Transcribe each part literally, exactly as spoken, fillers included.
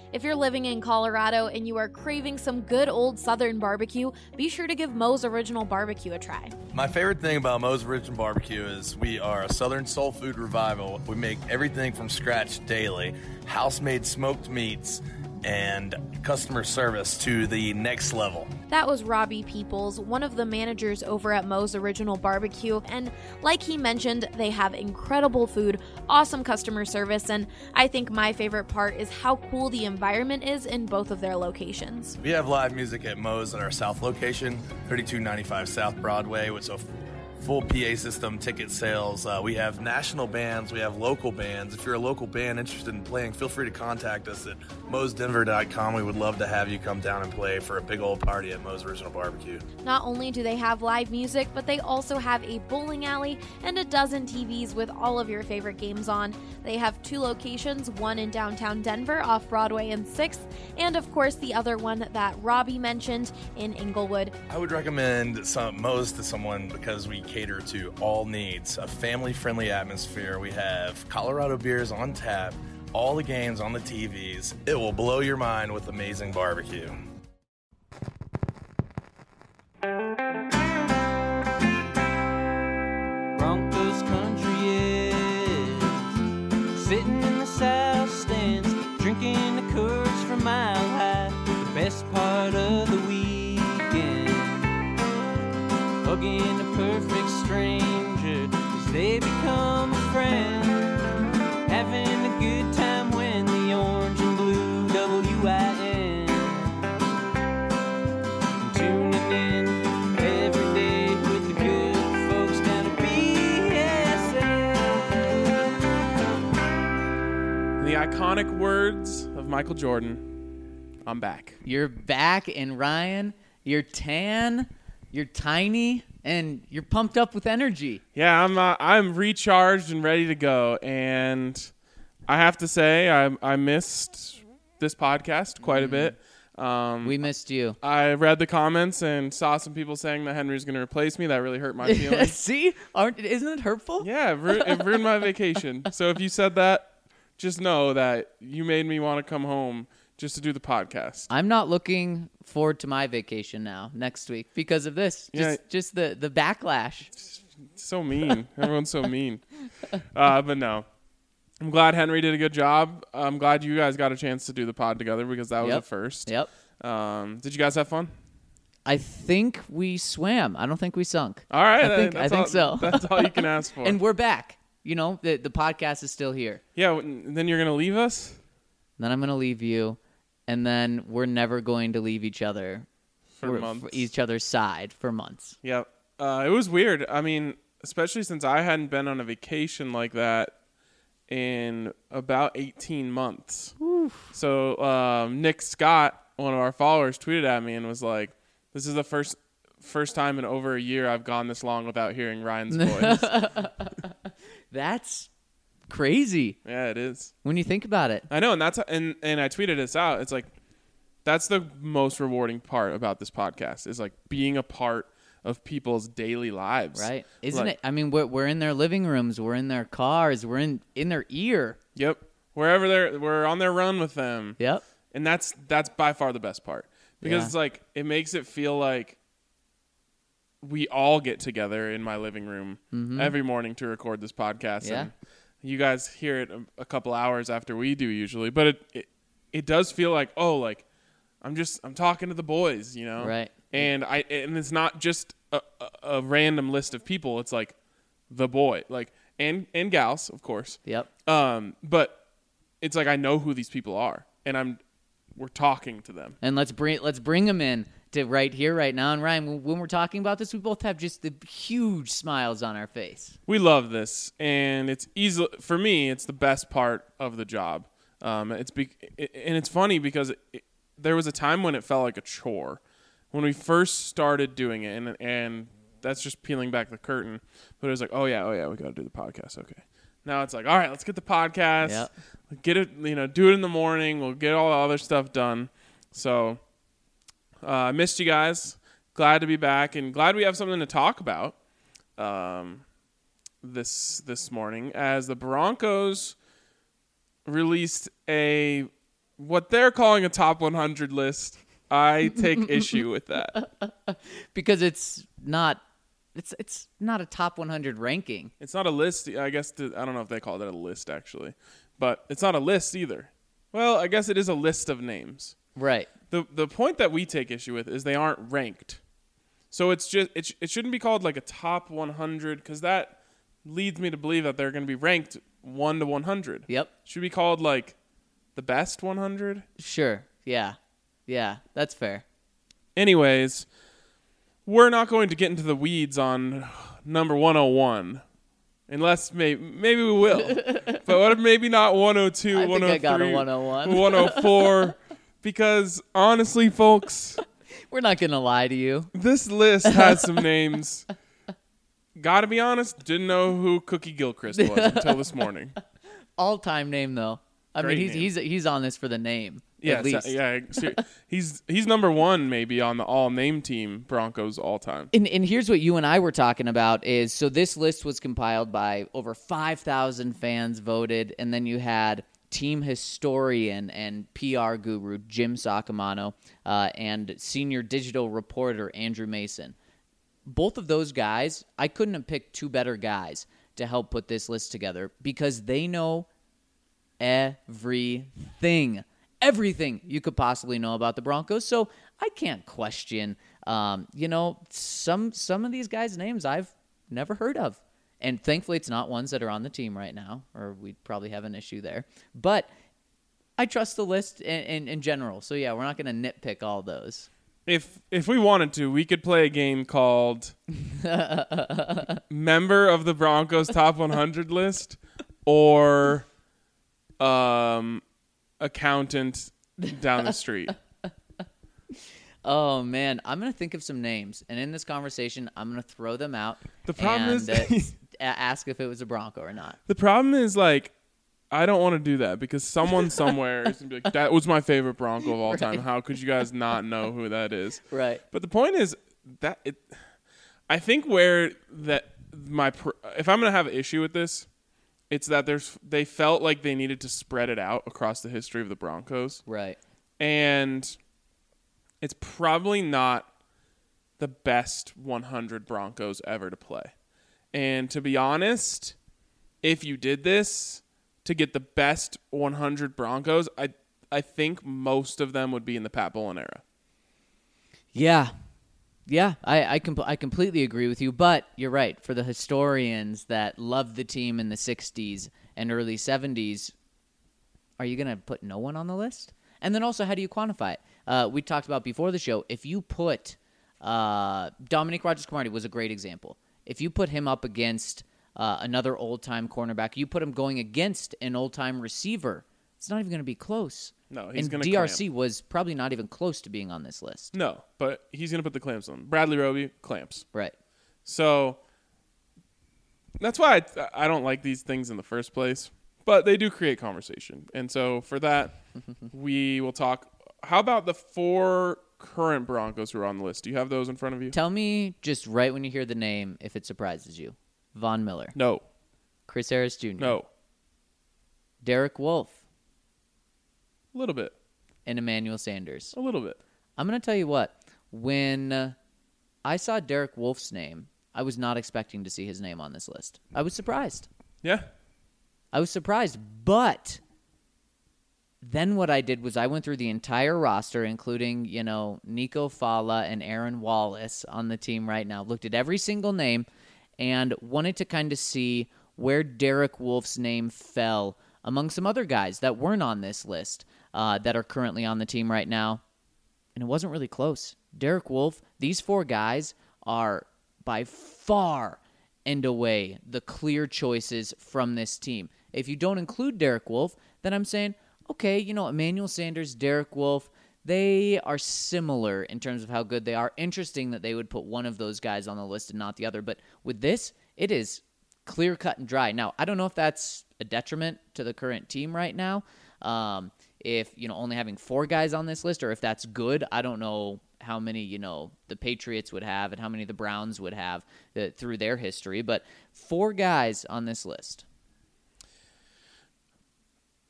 If you're living in Colorado and you are craving some good old Southern barbecue, be sure to give Moe's Original Barbecue a try. My favorite thing about Moe's Original Barbecue is we are a Southern soul food revival. We make everything from scratch daily, house-made smoked meats, and customer service to the next level. That was Robbie Peoples, one of the managers over at Moe's Original Barbecue, and like he mentioned, they have incredible food, awesome customer service, and I think my favorite part is how cool the environment is in both of their locations. We have live music at Moe's at our South location, thirty-two ninety-five South Broadway, with a full P A system, ticket sales. Uh, we have national bands. We have local bands. If you're a local band interested in playing, feel free to contact us at moes denver dot com. We would love to have you come down and play for a big old party at Moe's Original Barbecue. Not only do they have live music, but they also have a bowling alley and a dozen T Vs with all of your favorite games on. They have two locations, one in downtown Denver off Broadway and sixth, and of course the other one that Robbie mentioned in Inglewood. I would recommend some Moe's to someone because we cater to all needs, a family-friendly atmosphere. We have Colorado beers on tap, all the games on the T Vs. It will blow your mind with amazing barbecue. Broncos country is sitting in the south stands, drinking the Coors from Mile High, the best part of the weekend, hugging a perfect stranger as they become a friend, having a good time when the orange and blue W I N, tuning in every day with the good folks down at B S N. The iconic words of Michael Jordan, I'm back. You're back, and Ryan, you're tan, you're tiny, and you're pumped up with energy. Yeah, I'm uh, I'm recharged and ready to go, and I have to say I I missed this podcast quite a bit. Um, We missed you. I read the comments and saw some people saying that Henry's going to replace me. That really hurt my feelings. See? Aren't, isn't it hurtful? Yeah, it, ru- it ruined my vacation. So if you said that, just know that you made me want to come home just to do the podcast. I'm not looking forward to my vacation now next week because of this. Just, Yeah. just the, the backlash. So mean. Everyone's so mean. Uh, but no. I'm glad Henry did a good job. I'm glad you guys got a chance to do the pod together because that was Yep. a first. Yep. Um, did you guys have fun? I think we swam. I don't think we sunk. All right. I think, I that's think all, so. That's all you can ask for. And we're back. You know, the, the podcast is still here. yeah. w- Then you're going to leave us? Then I'm going to leave you, and then we're never going to leave each other For We're- months. for each other's side for months. Yep. Uh, it was weird. I mean, especially since I hadn't been on a vacation like that in about eighteen months. So um, Nick Scott, one of our followers, tweeted at me and was like, "This is the first first time in over a year I've gone this long without hearing Ryan's voice." That's crazy Yeah, it is. when you think about it. I know, and that's and and I tweeted this out. It's like that's the most rewarding part about this podcast is like being a part of people's daily lives. Right? Isn't Like- it? I mean, we're, we're in their living rooms. We're in their cars. We're in, in their ear. Yep. Wherever they're we're on their run with them. Yep. And that's that's by far the best part. Because Yeah. it's like it makes it feel like we all get together in my living room every morning to record this podcast. Mm-hmm. Yeah. And you guys hear it a, a couple hours after we do usually. But it, it it does feel like, oh, like I'm just I'm talking to the boys, you know? Right. And I and it's not just a, a, a random list of people. It's like the boy, like and and gals, of course. Yep. Um, but it's like I know who these people are, and I'm we're talking to them. And let's bring let's bring them in to right here, right now. And Ryan, when- when we're talking about this, we both have just the huge smiles on our face. We love this, and it's easy for me. It's the best part of the job. Um, it's be, it, and it's funny because it, it, there was a time when it felt like a chore when we first started doing it, and and that's just peeling back the curtain. But it was like, oh yeah, oh yeah, we got to do the podcast. Okay. Now it's like, all right, let's get the podcast. Yep. Get it, you know, do it in the morning. We'll get all the other stuff done. So uh, I missed you guys. Glad to be back, and glad we have something to talk about um, this this morning as the Broncos released a what they're calling a top one hundred list, I take issue with that. Because it's not it's it's not a top one hundred ranking. It's not a list. I guess to, I don't know if they call it a list actually, but it's not a list either. Well, I guess it is a list of names. Right. The the point that we take issue with is they aren't ranked. So it's just it, sh- it shouldn't be called like a top one hundred because that leads me to believe that they're going to be ranked one to one hundred. Yep. Should be called like the best one hundred. Sure. Yeah. Yeah, that's fair. Anyways, we're not going to get into the weeds on number one oh one. Unless maybe maybe we will. But what if maybe not one oh two, I think one oh three, I got a one oh one. one oh four because honestly, folks, We're not going to lie to you. this list has some names. Gotta be honest, didn't know who Cookie Gilchrist was until this morning. All-time name though. I Great mean, he's name. he's he's on this for the name. Yeah, at least. yeah. ser- He's he's number one maybe on the all name team Broncos all time. And, and here's what you and I were talking about is, so this list was compiled by over five thousand fans voted, and then you had team historian and P R guru Jim Saccomano uh, and senior digital reporter Andrew Mason. Both of those guys, I couldn't have picked two better guys to help put this list together because they know everything. Everything you could possibly know about the Broncos. So I can't question, um, you know, some some of these guys' names I've never heard of. And thankfully it's not ones that are on the team right now, or we'd probably have an issue there. But I trust the list in, in, in general. So, yeah, we're not going to nitpick all those. If if we wanted to, we could play a game called Member of the Broncos Top one hundred List or um, Accountant down the street. Oh, man. I'm going to think of some names. And in this conversation, I'm going to throw them out. The problem and, is- uh, s- a- ask if it was a Bronco or not. The problem is, like, I don't want to do that because someone somewhere is going to be like, that was my favorite Bronco of all time. Right. How could you guys not know who that is? Right. But the point is that it, I think where that my pr- if I'm going to have an issue with this, it's that there's they felt like they needed to spread it out across the history of the Broncos. Right. And it's probably not the best one hundred Broncos ever to play. And to be honest, if you did this to get the best one hundred Broncos, I I think most of them would be in the Pat Bowlen era. Yeah. Yeah, I I, com- I completely agree with you. But you're right. For the historians that loved the team in the sixties and early seventies, are you going to put no one on the list? And then also, how do you quantify it? Uh, we talked about before the show, if you put uh, Dominique Rodgers-Cromartie was a great example. If you put him up against uh, another old-time cornerback, you put him going against an old-time receiver, it's not even going to be close. No, he's and gonna D R C was probably not even close to being on this list. No, but he's going to put the clamps on. Bradley Roby, clamps. Right. So that's why I, I don't like these things in the first place. But they do create conversation. And so for that, we will talk. How about the four current Broncos who are on the list? Do you have those in front of you? Tell me just right when you hear the name if it surprises you. Von Miller. No. Chris Harris Junior No. Derek Wolfe. A little bit. And Emmanuel Sanders. A little bit. I'm going to tell you what. When uh, I saw Derek Wolfe's name, I was not expecting to see his name on this list. I was surprised. Yeah. I was surprised. But then what I did was I went through the entire roster, including, you know, Nico Fala and Aaron Wallace on the team right now. Looked at every single name and wanted to kind of see where Derek Wolfe's name fell among some other guys that weren't on this list uh, that are currently on the team right now. And it wasn't really close. Derek Wolfe, these four guys are by far and away the clear choices from this team. If you don't include Derek Wolfe, then I'm saying, okay, you know, Emmanuel Sanders, Derek Wolfe, they are similar in terms of how good they are. Interesting that they would put one of those guys on the list and not the other. But with this, it is clear cut and dry. Now, I don't know if that's a detriment to the current team right now. Um, if, you know, only having four guys on this list, or if that's good, I don't know how many, you know, the Patriots would have and how many the Browns would have uh, through their history. But four guys on this list.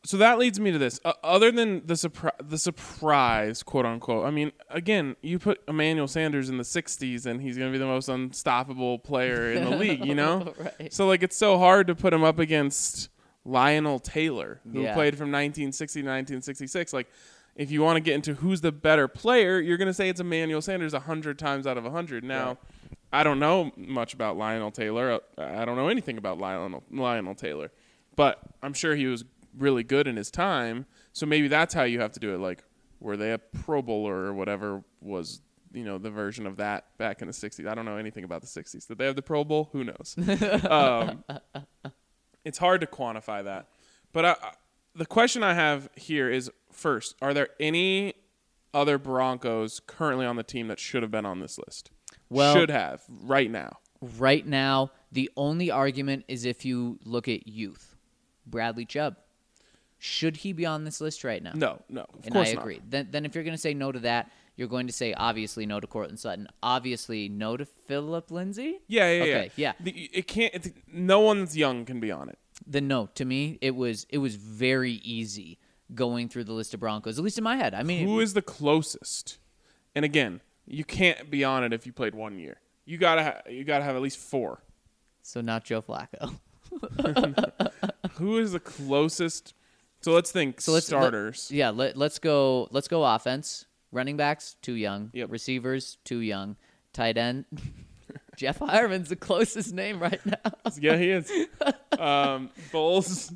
so that leads me to this. Uh, other than the surpri- the surprise, quote unquote. I mean, again, you put Emmanuel Sanders in the sixties, and he's going to be the most unstoppable player in the league. You know, Right. so like it's so hard to put him up against Lionel Taylor, who Yeah. played from nineteen sixty to nineteen sixty-six. Like, if you want to get into who's the better player, you're going to say it's Emmanuel Sanders a hundred times out of a hundred. Now, Right. I don't know much about Lionel Taylor. I don't know anything about Lionel Lionel Taylor, but I'm sure he was really good in his time. So maybe that's how you have to do it. Like, were they a Pro Bowler or whatever was, you know, the version of that back in the sixties? I don't know anything about the sixties. Did they have the Pro Bowl? Who knows? um, it's hard to quantify that. But I, I, the question I have here is, first, are there any other Broncos currently on the team that should have been on this list? Well- should have right now. Right now, the only argument is if you look at youth. Bradley Chubb. Should he be on this list right now? No, no, of And course I not. agree. Then, then if you're going to say no to that, you're going to say obviously no to Cortland Sutton. Obviously no to Phillip Lindsay? Yeah, yeah, Okay, yeah. yeah. The, it can't. It's, no one's young can be on it. Then no, to me, it was it was very easy going through the list of Broncos, at least in my head. I mean, Who is the closest? And again, you can't be on it if you played one year. You gotta ha- you gotta have at least four. so not Joe Flacco. Who is the closest? So let's think So let's starters. Let, yeah, let, let's go. Let's go offense. Running backs too young. Yep. Receivers too young. Tight end. Jeff Hireman's the closest name right now. Yeah, he is. um, Bulls.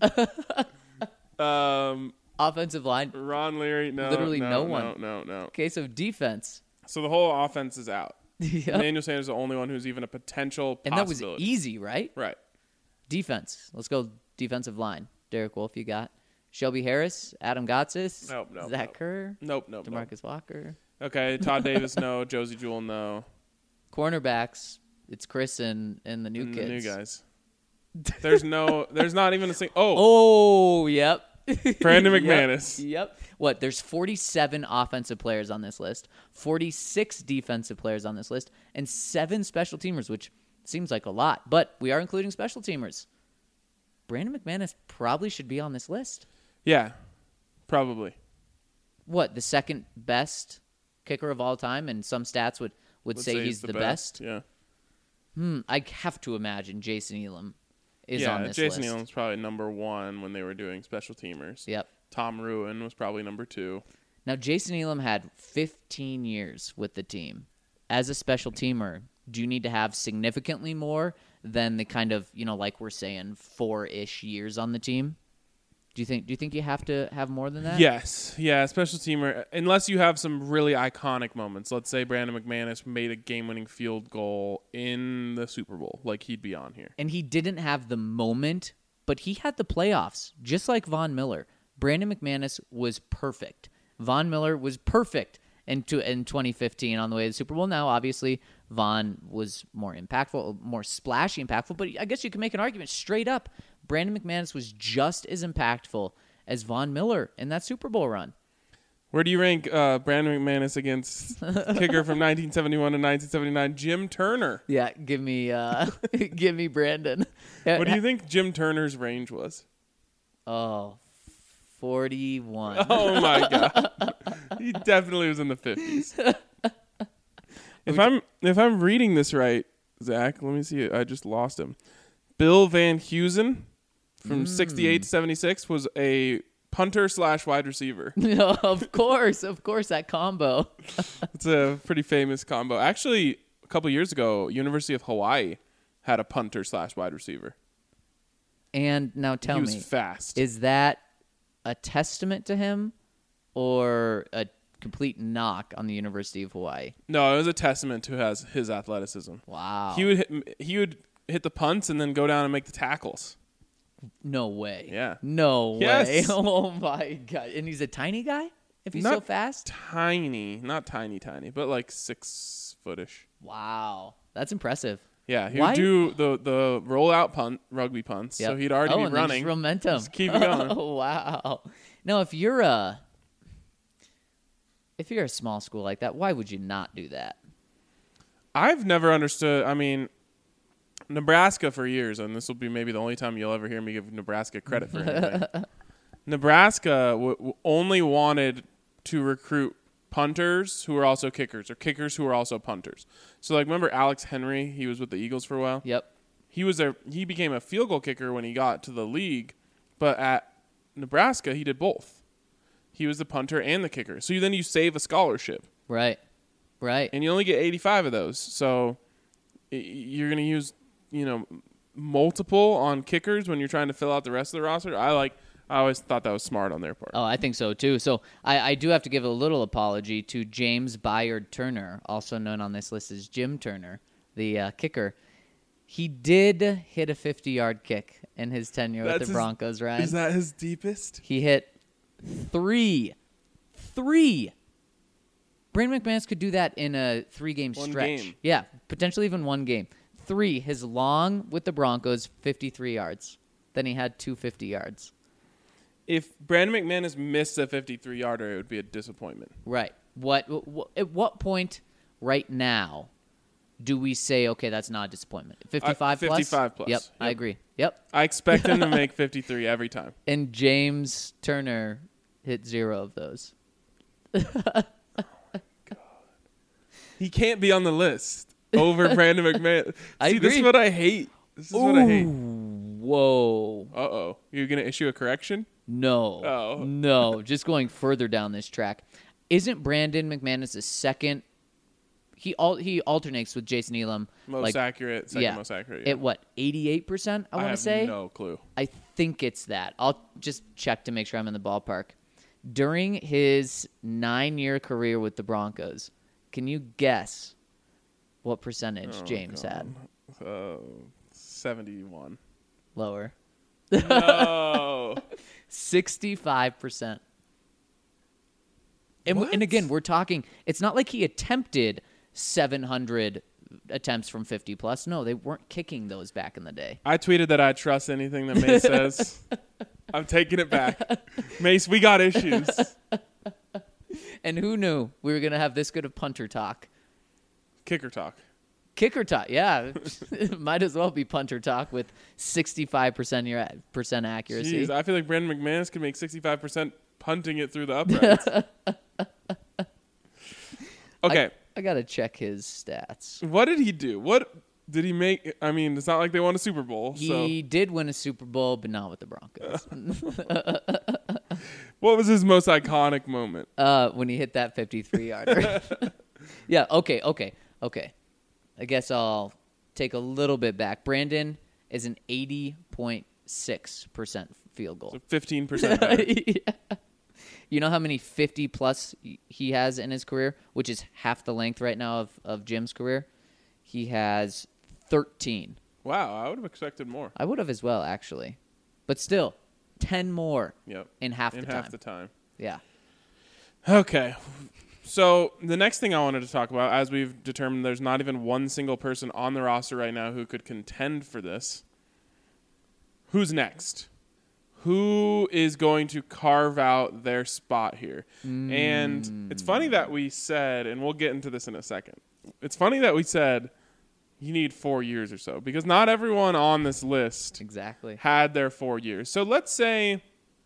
um, Offensive line. Ron Leary. No, Literally no, no no one. No, no. Case of defense. So the whole offense is out. Yep. Emmanuel Sanders is the only one who's even a potential And that was possibility. easy, right? Right. Defense. Let's go defensive line. Derek Wolfe, you got. Shelby Harris, Adam Gotsis, Nope, nope, Zach nope. Kerr, Nope, nope, nope. DeMarcus Walker. Okay, Todd Davis, no. Josie Jewell, no. Cornerbacks, it's Chris and, and the new And kids. the new guys. There's no. There's not even a single. Oh, Oh, yep. Brandon Yep, McManus. Yep. What? There's forty-seven offensive players on this list, forty-six defensive players on this list, and seven special teamers, which seems like a lot, but we are including special teamers. Brandon McManus probably should be on this list. Yeah, probably. What? The second best kicker of all time, and some stats would, would Would say, say he's it's the, best. Yeah. Hmm. I have to imagine Jason Elam is yeah, on this Jason list. Elam's probably number one when they were doing special teamers. Yep. Tom Ruin was probably number two. Now, Jason Elam had fifteen years with the team. As a special teamer, do you need to have significantly more than the kind of, you know, like we're saying, four-ish years on the team? Do you think Do you think you have to have more than that? Yes, yeah, special teamer. Unless you have some really iconic moments. Let's say Brandon McManus made a game-winning field goal in the Super Bowl, like he'd be on here. And he didn't have the moment, but he had the playoffs, just like Von Miller. Brandon McManus was perfect. Von Miller was perfect in, to, in twenty fifteen on the way to the Super Bowl. Now, obviously, Von was more impactful, more splashy impactful, but I guess you can make an argument straight up. Brandon McManus was just as impactful as Von Miller in that Super Bowl run. Where do you rank uh, Brandon McManus against kicker from nineteen seventy-one to nineteen seventy-nine, Jim Turner? Yeah, give me, uh, give me Brandon. What do you think Jim Turner's range was? Oh, forty-one. Oh my god, he definitely was in the fifties. If I'm if I'm reading this right, Zach, let me see. I just lost him. Bill Van Heusen from sixty-eight to seventy-six was a punter slash wide receiver. No, of course, of course, that combo. It's a pretty famous combo. Actually, a couple years ago, University of Hawaii had a punter slash wide receiver. And now tell he was me, fast. is that a testament to him or a complete knock on the University of Hawaii? No, it was a testament to his his athleticism. Wow. He would hit, he would hit the punts and then go down and make the tackles. No way. Yeah. No Yes. way. Oh, my God. And he's a tiny guy if he's Not so fast? Tiny, not tiny, tiny, but like six footish. Wow. That's impressive. Yeah, he Why- would do the the roll out punt, rugby punts. So Yep. he'd already oh, be and then just running. momentum. Just keep it going. Oh, wow. Now, if you're a if you're a small school like that, why would you not do that? I've never understood. I mean, Nebraska for years, and this will be maybe the only time you'll ever hear me give Nebraska credit for anything. Nebraska w- w- only wanted to recruit punters who are also kickers, or kickers who are also punters. So, like, remember Alex Henry? He was with the Eagles for a while. Yep. He was a he became a field goal kicker when he got to the league, but at Nebraska he did both. He was the punter and the kicker. So you, then you save a scholarship, Right. Right. and you only get eighty-five of those. So y- you're going to use, you know, multiple on kickers when you're trying to fill out the rest of the roster. I like. I always thought that was smart on their part. Oh, I think so too. So I, I do have to give a little apology to James Byard Turner, also known on this list as Jim Turner, the uh, kicker. He did hit a fifty-yard kick in his tenure That's with the his- Broncos, Ryan. Is that his deepest? He hit three. Three. Brandon McManus could do that in a three-game One stretch. game. Yeah, potentially even one game. Three. His long with the Broncos, fifty-three yards. Then he had two fifty yards. If Brandon McManus missed a fifty-three yarder, it would be a disappointment. Right. What, what? At what point right now do we say, okay, that's not a disappointment? fifty-five plus? fifty-five plus. Yep, I Yep. agree. Yep. I expect him to make fifty-three every time. And James Turner hit zero of those. He can't be on the list over Brandon McMahon. I See, this is agree. what I hate. This is what I hate. Whoa. Uh-oh. You're going to issue a correction? No. Oh. No. Just going further down this track. Isn't Brandon McManus the second? He al- he alternates with Jason Elam. Most like, accurate, second yeah. most accurate. Yeah. At what, eighty-eight percent, I I want to have say? no clue. I think it's that. I'll just check to make sure I'm in the ballpark. During his nine-year career with the Broncos, can you guess what percentage Oh, James God. had? Uh, seventy-one. Lower. No. sixty-five percent. And, What? and again, we're talking, it's not like he attempted seven hundred attempts from fifty plus. No, they weren't kicking those back in the day. I tweeted that I trust anything that Mace says. I'm taking it back. Mace, we got issues. And who knew we were going to have this good of punter talk? Kicker talk. Kicker talk, yeah. Might as well be punter talk with sixty-five percent your percent accuracy. Jeez, I feel like Brandon McManus could make sixty-five percent punting it through the uprights. Okay. I, I got to check his stats. What did he do? What did he make? I mean, it's not like they won a Super Bowl. He did win a Super Bowl, but not with the Broncos. So, what was his most iconic moment? uh, when he hit that fifty-three yarder. Yeah, okay, okay, okay. I guess I'll take a little bit back. Brandon is an eighty point six percent field goal. So fifteen percent better. Yeah. You know how many fifty plus he has in his career, which is half the length right now of, of Jim's career? He has thirteen. Wow, I would have expected more. I would have as well, actually. But still, ten more Yep. in half In the half time. the time. Yeah. Okay. So the next thing I wanted to talk about, as we've determined there's not even one single person on the roster right now who could contend for this. Who's next? Who is going to carve out their spot here? Mm. And it's funny that we said, and we'll get into this in a second. It's funny that we said you need four years or so, because not everyone on this list Exactly. had their four years. So let's say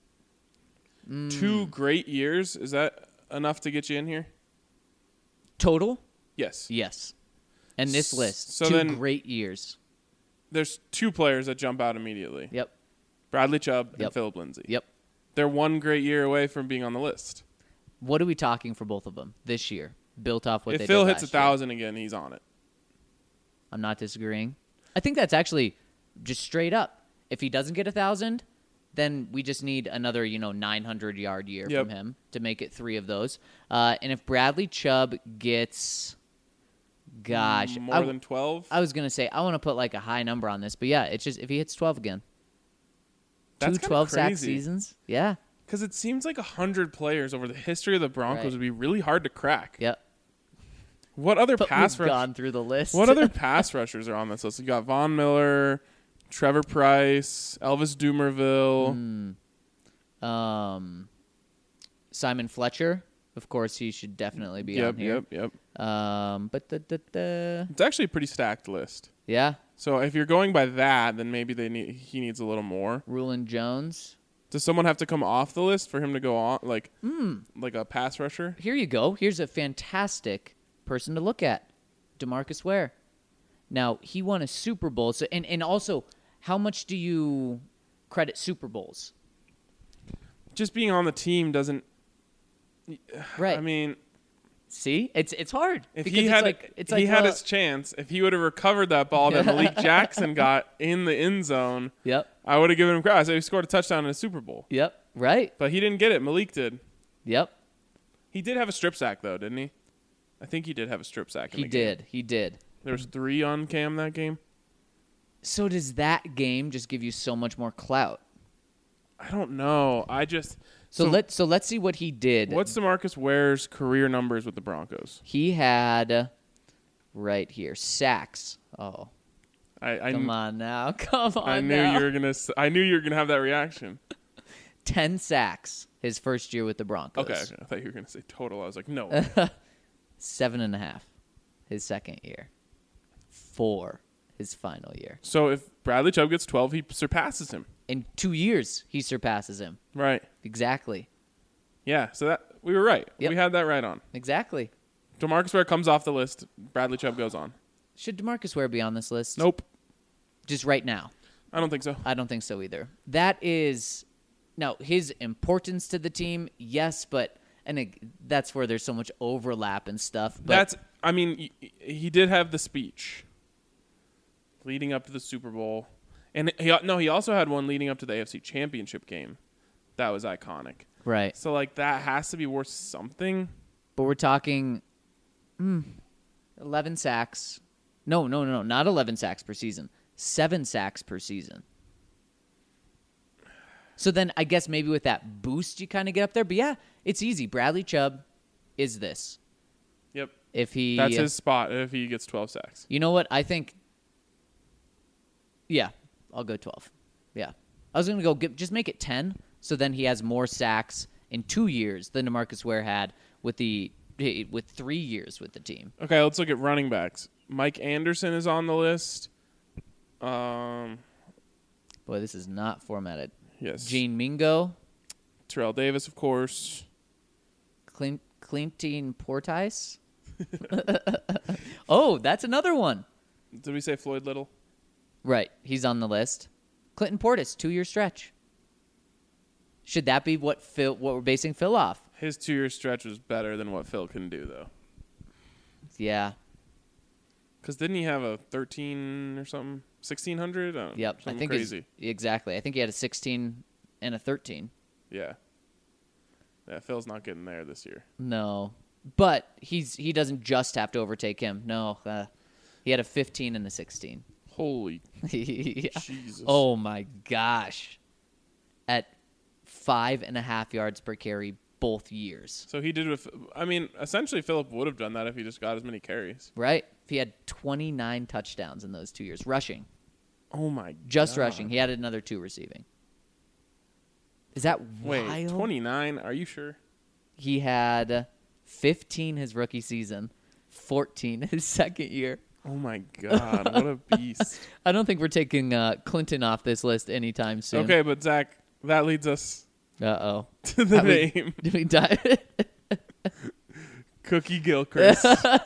Mm. two great years. Is that enough to get you in here? Total? Yes. Yes. And this S- list, so two then- great years. There's two players that jump out immediately. Yep. Bradley Chubb and Yep. Philip Lindsay. Yep. They're one great year away from being on the list. What are we talking for both of them this year? Built off what if they Phil did hits a last year? thousand again, he's on it. I'm not disagreeing. I think that's actually just straight up. If he doesn't get a thousand, then we just need another, you know, nine hundred yard year Yep. from him to make it three of those. Uh, and if Bradley Chubb gets, gosh, More I, than twelve? I was gonna say I want to put like a high number on this, but yeah, it's just if he hits twelve again, That's two kinda twelve sack crazy. seasons, yeah, Because it seems like one hundred players over the history of the Broncos Right. would be really hard to crack. yep. What other But pass we've rush- gone through the list. What other pass rushers are on this list? You got Von Miller, Trevor Price, Elvis Dumerville. um, Simon Fletcher, of course, he should definitely be Yep, on here. yep, yep. Um, but the, the, the It's actually a pretty stacked list. yeah, So if you're going by that, then maybe they need he needs a little more. Rulon Jones. Does someone have to come off the list for him to go on, like Hmm. like a pass rusher? Here you go. Here's a fantastic person to look at. DeMarcus Ware. Now, he won a Super Bowl. So, and, and also, how much do you credit Super Bowls? Just being on the team doesn't. Right. I mean, See? It's it's hard. if because he it's had like, it's he like, had well, his chance, if he would have recovered that ball that Malik Jackson got in the end zone, Yep. I would have given him credit. I said he scored a touchdown in a Super Bowl, Yep. Right. but he didn't get it. Malik did. Yep. He did have a strip sack though, didn't he? I think he did have a strip sack. In He the game. did. He did. There was three on Cam that game. So does that game just give you so much more clout? I don't know. I just So, let so let's see what he did. What's DeMarcus Ware's career numbers with the Broncos? He had uh, right here sacks. Oh, I I, come on now, come on I knew now. you were gonna. s- I knew you were gonna have that reaction. Ten sacks his first year with the Broncos. Okay, okay. I thought you were gonna say total. I was like, no. Seven and a half his second year. Four his final year. So if Bradley Chubb gets twelve, he surpasses him. In two years, he surpasses him. Right. Exactly. Yeah. So that we were right. Yep. We had that right on. Exactly. DeMarcus Ware comes off the list. Bradley Chubb goes on. Should DeMarcus Ware be on this list? Nope. Just right now. I don't think so. I don't think so either. That is now his importance to the team, yes, but and it, that's where there's so much overlap and stuff. But That's. I mean, y- he did have the speech leading up to the Super Bowl, and he no, he also had one leading up to the A F C Championship game. That was iconic. right. So like that has to be worth something. But we're talking mm, eleven sacks. No, no, no, no, not eleven sacks per season. Seven sacks per season. So then I guess maybe with that boost you kind of get up there. But yeah, it's easy. Bradley Chubb is this. Yep. If he That's his spot if he gets twelve sacks. You know what? I think yeah, I'll go twelve. Yeah. I was going to go get, just make it ten so then he has more sacks in two years than DeMarcus Ware had with the with three years with the team. Okay, let's look at running backs. Mike Anderson is on the list. Um, Boy, this is not formatted. yes. Gene Mingo, Terrell Davis, of course. Clint, Clinton Portis. Oh, that's another one. Did we say Floyd Little? Right, he's on the list. Clinton Portis, two-year stretch. Should that be what Phil? What we're basing Phil off? His two-year stretch was better than what Phil can do, though. Yeah. Because didn't he have a thirteen or something? sixteen hundred? I don't know, Yep. I something think it's- crazy. exactly. I think he had a sixteen and a thirteen. Yeah. Yeah, Phil's not getting there this year. No, but he's he doesn't just have to overtake him. No, uh, he had a fifteen and a sixteen. Holy Yeah. Jesus. Oh my gosh! At five and a half yards per carry both years. So he did with, I mean, essentially Philip would have done that if he just got as many carries. Right? If he had twenty-nine touchdowns in those two years, rushing, Oh my just God. rushing. He had another two receiving. Is that Wait, wild? twenty-nine? Are you sure? He had fifteen his rookie season, fourteen his second year. Oh my God, what a beast. I don't think we're taking uh, Clinton off this list anytime soon. Okay, but Zach, that leads us Uh oh. to the Have we- name. Did we die? Cookie Gilchrist.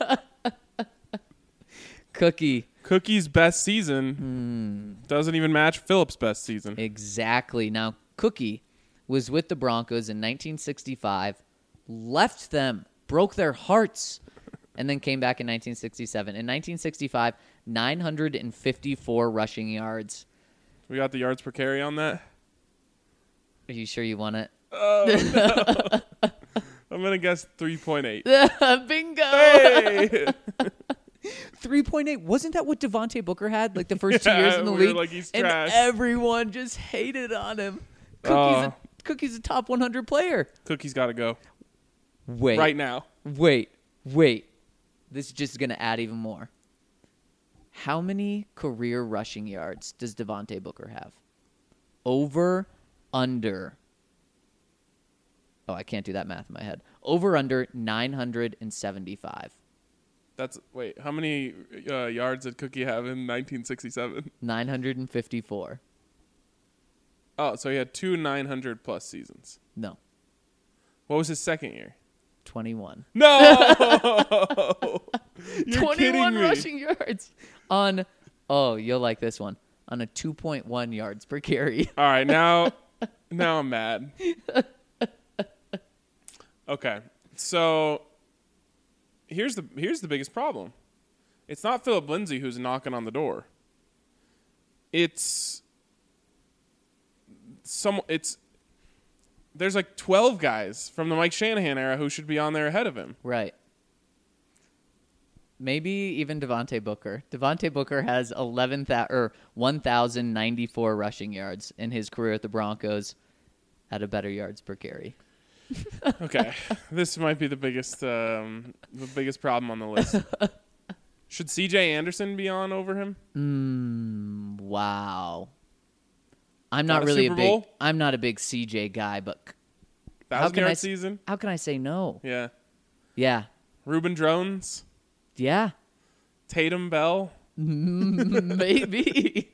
Cookie. Cookie's best season Hmm. doesn't even match Philip's best season. Exactly. Now, Cookie was with the Broncos in nineteen sixty-five, left them, broke their hearts, and then came back in nineteen sixty-seven. In nineteen sixty-five, nine hundred fifty-four rushing yards. We got the yards per carry on that. Are you sure you want it? I'm going to guess three point eight. Bingo! Hey! three point eight. Wasn't that what Devontae Booker had like the first two Yeah, years in the we were league? like, he's and trash. everyone just hated on him. Cookie's, Oh. a, Cookie's a top one hundred player. Cookie's got to go Wait. right now. Wait. Wait. This is just going to add even more. How many career rushing yards does Devontae Booker have? Over, under. Oh, I can't do that math in my head. Over, under nine hundred seventy-five. That's wait. How many uh, yards did Cookie have in nineteen sixty-seven? nine hundred fifty-four. Oh, so he had two nine hundred plus seasons. No, What was his second year? twenty-one. No! You're twenty-one kidding me. rushing yards on. Oh, you'll like this one. On a two point one yards per carry. All right, now, now I'm mad. Okay, so here's the here's the biggest problem. It's not Philip Lindsay who's knocking on the door. It's some. It's there's like twelve guys from the Mike Shanahan era who should be on there ahead of him. Right. Maybe even Devontae Booker. Devontae Booker has eleven th- or one thousand ninety-four rushing yards in his career at the Broncos. Had a better yards per carry. Okay, this might be the biggest um, the biggest problem on the list. Should C J Anderson be on over him? Mm, wow. I'm Got not a really Super a big. Bowl? I'm not a big C J guy, but c- how Thousand can I yard s- season? how can I say no? Yeah. Yeah, Reuben Drones, yeah, Tatum Bell. maybe.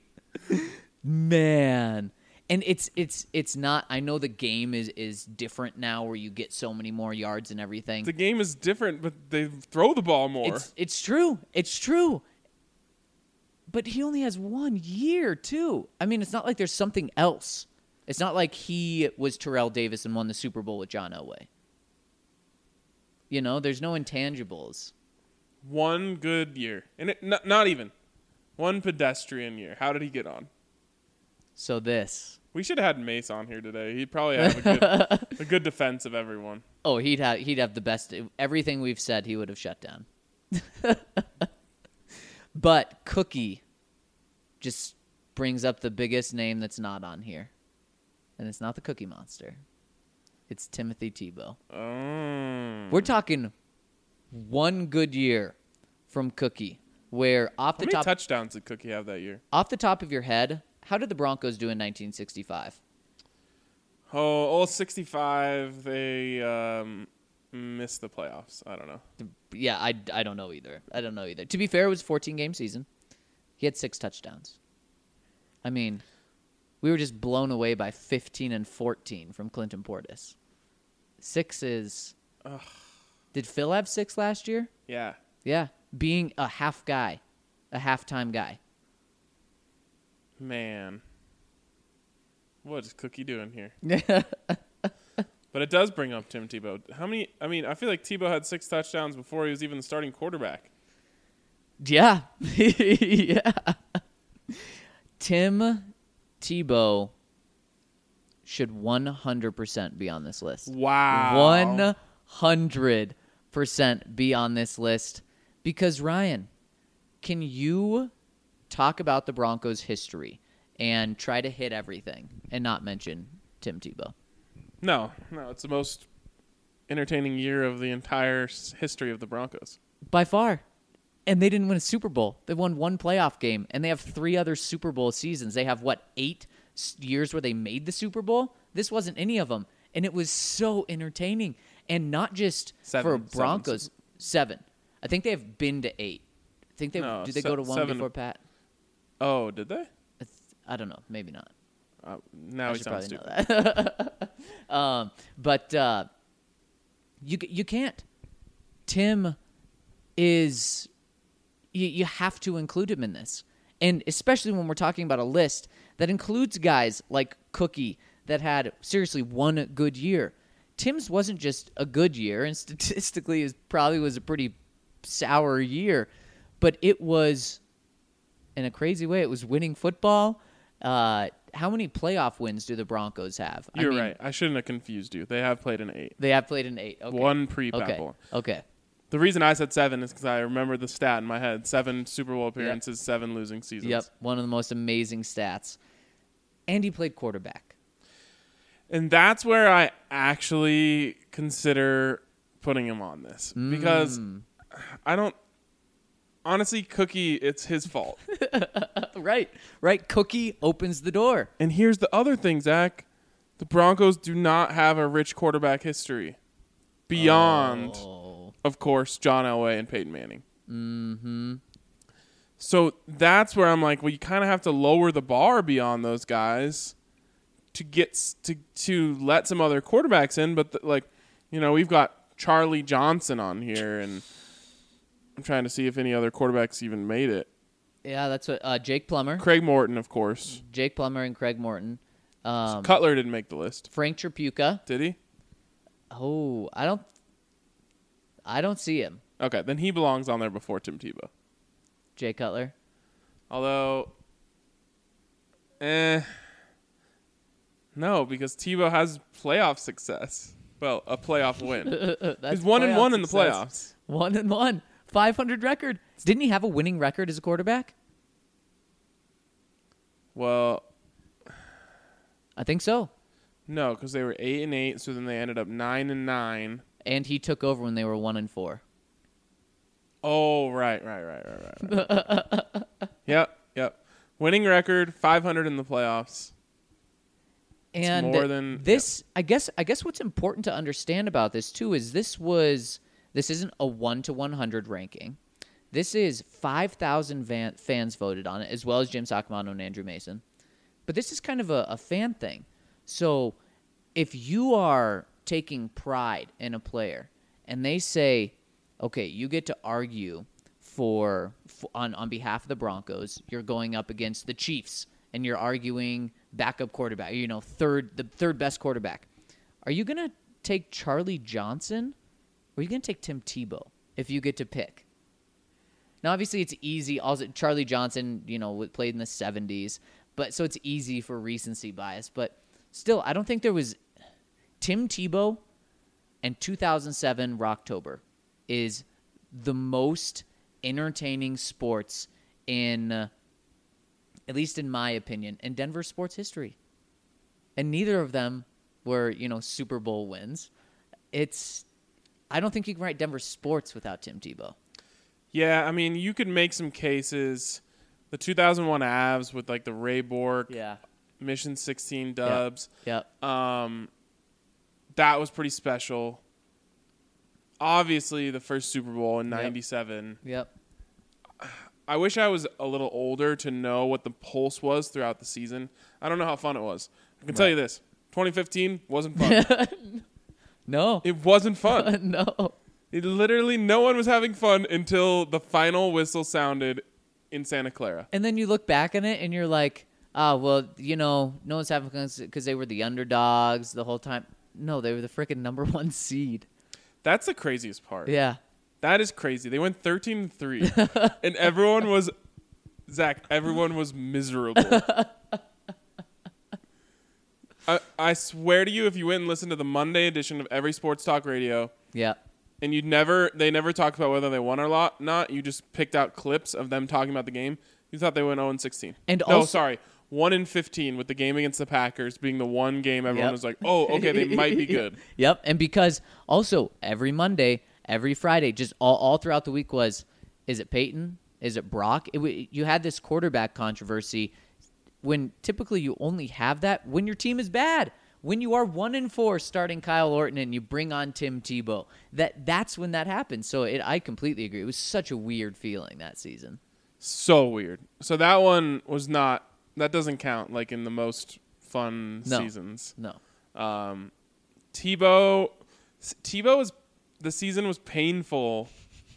Man, and it's it's it's not. I know the game is is different now, where you get so many more yards and everything. The game is different, but they throw the ball more. It's it's true. It's true. But he only has one year too. I mean, it's not like there's something else. It's not like he was Terrell Davis and won the Super Bowl with John Elway. You know, there's no intangibles. One good year, and it, not, not even one pedestrian year. How did he get on? So this. We should have had Mace on here today. He'd probably have a good, a good defense of everyone. Oh, he'd have he'd have the best. Everything we've said, he would have shut down. But Cookie just brings up the biggest name that's not on here, and it's not the Cookie Monster. It's Timothy Tebow. Oh. We're talking one good year from Cookie, where off How the many top touchdowns did Cookie have that year? off the top of your head, how did the Broncos do in nineteen sixty-five? Oh, all sixty-five. They um, missed the playoffs. I don't know. Yeah, I, I don't know either. I don't know either. To be fair, it was a fourteen-game season. He had six touchdowns. I mean, we were just blown away by fifteen and fourteen from Clinton Portis. Six is... Ugh. Did Phil have six last year? Yeah. Yeah, being a half guy, a halftime guy. Man. What is Cookie doing here? But it does bring up Tim Tebow. How many? I mean, I feel like Tebow had six touchdowns before he was even the starting quarterback. Yeah. Yeah. Tim Tebow should one hundred percent be on this list. Wow. one hundred percent be on this list. Because, Ryan, can you talk about the Broncos' history and try to hit everything and not mention Tim Tebow? No, no, it's the most entertaining year of the entire s- history of the Broncos. By far. And they didn't win a Super Bowl. They won one playoff game, and they have three other Super Bowl seasons. They have, what, eight s- years where they made the Super Bowl? This wasn't any of them. And it was so entertaining. And not just Seven, for seven, Broncos. Seven. I think they have been to eight. I think they No, did they se- go to one seven. before Pat? Oh, did they? I, th- I don't know. Maybe not. Uh, now I he should sounds probably stupid. know that. um, but uh, you you can't. Tim is you, you have to include him in this, and especially when we're talking about a list that includes guys like Cookie that had seriously one good year. Tim's wasn't just a good year, and statistically, it probably was a pretty sour year, but it was, in a crazy way, it was winning football. Uh, how many playoff wins do the Broncos have? You're I mean, right. I shouldn't have confused you. They have played an eight. They have played an eight. Okay. One pre-Pat Okay. Bowl. Okay. The reason I said seven is because I remember the stat in my head. Seven Super Bowl appearances, seven losing seasons. Yep. One of the most amazing stats. And he played quarterback. And that's where I actually consider putting him on this. Because Mm. I don't... Honestly, Cookie, it's his fault. Right. Right. Cookie opens the door. And here's the other thing, Zach. The Broncos do not have a rich quarterback history. Beyond, Oh. of course, John Elway and Peyton Manning. Mm-hmm. So that's where I'm like, well, you kind of have to lower the bar beyond those guys to get s- to to let some other quarterbacks in, but the, like, you know, we've got Charlie Johnson on here, and I'm trying to see if any other quarterbacks even made it. Yeah, that's what uh, Jake Plummer. Craig Morton, of course. Jake Plummer and Craig Morton. Um, Cutler didn't make the list, Frank Tripucka. did he? Oh, I don't. I don't see him. Okay, then he belongs on there before Tim Tebow. Jay Cutler. Although, eh, no, because Tebow has playoff success. Well, a playoff win. That's He's one and playoff one in the success. playoffs. One and one. five hundred record. Didn't he have a winning record as a quarterback? Well, I think so. no, because they were eight and eight, so then they ended up nine and nine. And he took over when they were one and four. Oh, right, right, right, right, right. right. yep, yep. Winning record, five hundred in the playoffs. And more than- this, I guess. I guess what's important to understand about this too is this was this isn't a one to one hundred ranking. This is five thousand van, fans voted on it, as well as Jim Sacamano and Andrew Mason. But this is kind of a, a fan thing. So if you are taking pride in a player, and they say, okay, you get to argue for, for on on behalf of the Broncos, you're going up against the Chiefs, and you're arguing backup quarterback, you know, third the third best quarterback. Are you gonna take Charlie Johnson, or are you gonna take Tim Tebow if you get to pick? Now, obviously, it's easy. Also, Charlie Johnson, you know, played in the seventies, but so it's easy for recency bias. But still, I don't think there was Tim Tebow and two thousand seven Rocktober is the most entertaining sports in, uh, at least in my opinion, in Denver sports history. And neither of them were, you know, Super Bowl wins. It's, I don't think you can write Denver sports without Tim Tebow. Yeah, I mean, you could make some cases. The two thousand one Avs with, like, the Ray Bork, Yeah. Mission sixteen dubs. Yep. Um, that was pretty special. Obviously, the first Super Bowl in ninety-seven. Yep. I wish I was a little older to know what the pulse was throughout the season. I don't know how fun it was. I can tell you this. twenty fifteen wasn't fun. No. It wasn't fun. No. It literally, no one was having fun until the final whistle sounded in Santa Clara. And then you look back on it and you're like, oh, well, you know, no one's having fun because they were the underdogs the whole time. No, they were the freaking number one seed. That's the craziest part. Yeah. That is crazy. They went thirteen and three, and everyone was, Zach, everyone was miserable. I, I swear to you, if you went and listened to the Monday edition of every Sports Talk Radio, Yeah. and you'd never, they never talked about whether they won or lo- not, you just picked out clips of them talking about the game, you thought they went oh and sixteen. And no, also- sorry, one and fifteen with the game against the Packers being the one game everyone Yep. was like, oh, okay, they might be good. Yep. And because also every Monday, every Friday, just all, all throughout the week was, is it Peyton? Is it Brock? It, w- you had this quarterback controversy when typically you only have that when your team is bad. When you are one and four starting Kyle Orton and you bring on Tim Tebow, that that's when that happens. So it, I completely agree. It was such a weird feeling that season. So weird. So that one was not, that doesn't count like in the most fun No. seasons. No. Um, Tebow, Tebow was, the season was painful.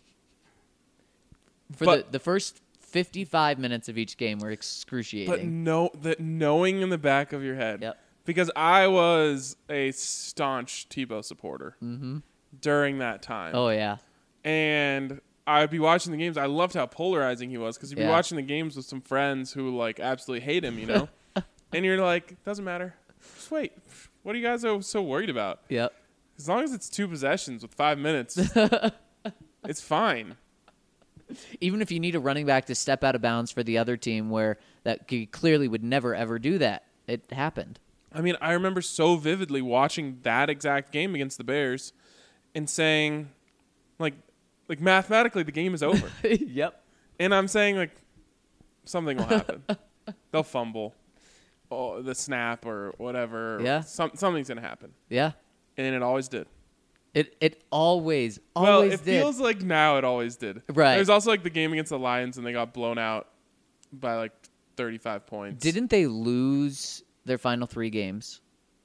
For But- the, the first fifty-five minutes of each game were But excruciating. no, that knowing in the back of your head, Yep. because I was a staunch Tebow supporter during that time, Oh, yeah. and I'd be watching the games. I loved how polarizing he was because you'd be Yeah. watching the games with some friends who like absolutely hate him, you know, and you're like, doesn't matter. Just wait. What are you guys so, so worried about? Yep. As long as it's two possessions with five minutes, it's fine. Even if you need a running back to step out of bounds for the other team where that he clearly would never, ever do that, it happened. I mean, I remember so vividly watching that exact game against the Bears and saying, like, like mathematically the game is over. Yep. And I'm saying, like, something will happen. They'll fumble oh, the snap or whatever. Yeah. Some, something's going to happen. Yeah. And it always did. It it always, Well, always it did. feels like now it always did. Right. There's also, like, the game against the Lions and they got blown out by, like, thirty-five points. Didn't they lose their final three games.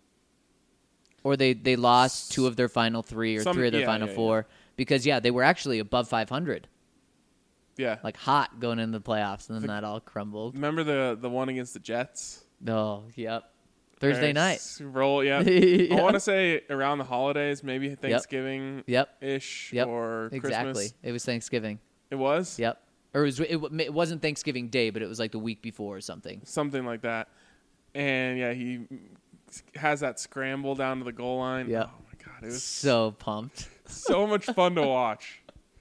Or they, they lost two of their final three or Some- three of their yeah, final yeah, four. Because, yeah, they were actually above five hundred. Yeah. Like hot going into the playoffs, and then that all crumbled. Remember the the one against the Jets? Oh, yep. Thursday night. Roll, yeah. Yeah. I want to say around the holidays, maybe Thanksgiving Yep. ish Yep. or Exactly. Christmas. It was Thanksgiving. It was? Yep. Or it, was, it, w- it wasn't Thanksgiving Day, but it was like the week before or something. Something like that. And yeah, he has that scramble down to the goal line. Yep. Oh my god, it was So pumped. so much fun to watch.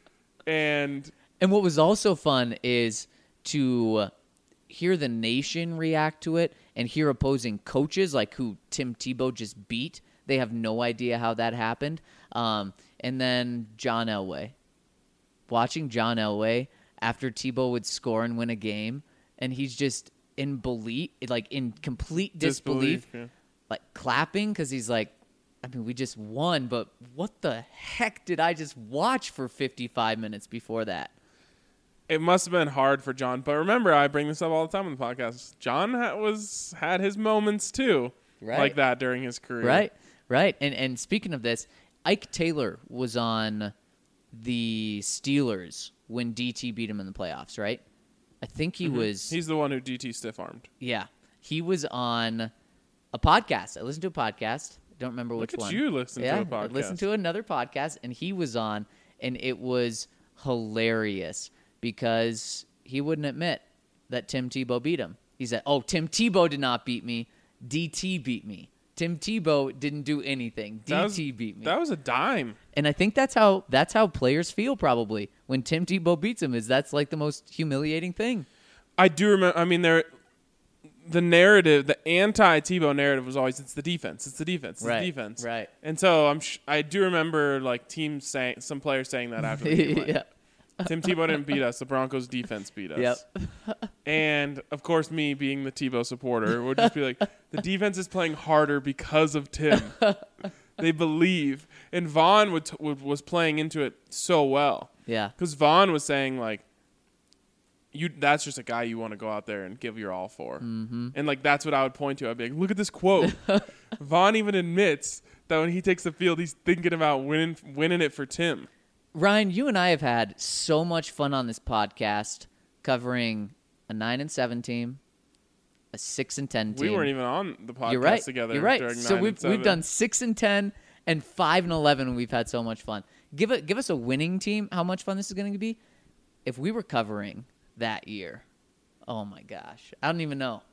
And And what was also fun is to hear the nation react to it and hear opposing coaches, like who Tim Tebow just beat. They have no idea how that happened. Um, and then John Elway. Watching John Elway after Tebow would score and win a game, and he's just in belief, like in complete disbelief, disbelief. Yeah. like clapping because he's like, I mean, we just won, but what the heck did I just watch for fifty-five minutes before that? It must have been hard for John, but remember, I bring this up all the time on the podcast. John ha- was had his moments too, Right. like that during his career. Right, right. And and speaking of this, Ike Taylor was on the Steelers when D T beat him in the playoffs, right? I think he was. He's the one who D T stiff armed. Yeah, he was on a podcast. I listened to a podcast. I don't remember which Look at one. you listen yeah, to a podcast. I listened to another podcast, and he was on, and it was hilarious because he wouldn't admit that Tim Tebow beat him. He said, "Oh, Tim Tebow did not beat me. D T beat me. Tim Tebow didn't do anything. D T That was- beat me." That was a dime. And I think that's how that's how players feel probably when Tim Tebow beats them. Is that's like the most humiliating thing. I do remember. I mean, there, the narrative, the anti-Tebow narrative was always it's the defense, it's the defense, it's Right, the defense, right. And so I'm, sh- I do remember like teams saying, some players saying that after the game. Like, Yeah. Tim Tebow didn't beat us. The Broncos defense beat us. Yep. And of course, me being the Tebow supporter would just be like, the defense is playing harder because of Tim. They believe, and Vaughn would t- would, was playing into it so well. Yeah. Because Vaughn was saying like, you that's just a guy you want to go out there and give your all for. Mm-hmm. And like that's what I would point to. I'd be like, look at this quote. Vaughn even admits that when he takes the field, he's thinking about winning winning it for Tim. Ryan, you and I have had so much fun on this podcast covering a nine and seven team, a six and ten team. We weren't even on the podcast You're right. together. You're right. During So nine we've and seven. we've done six and ten and five and eleven, and we've had so much fun. Give it give us a winning team. How much fun this is going to be? If we were covering that year, oh my gosh, I don't even know.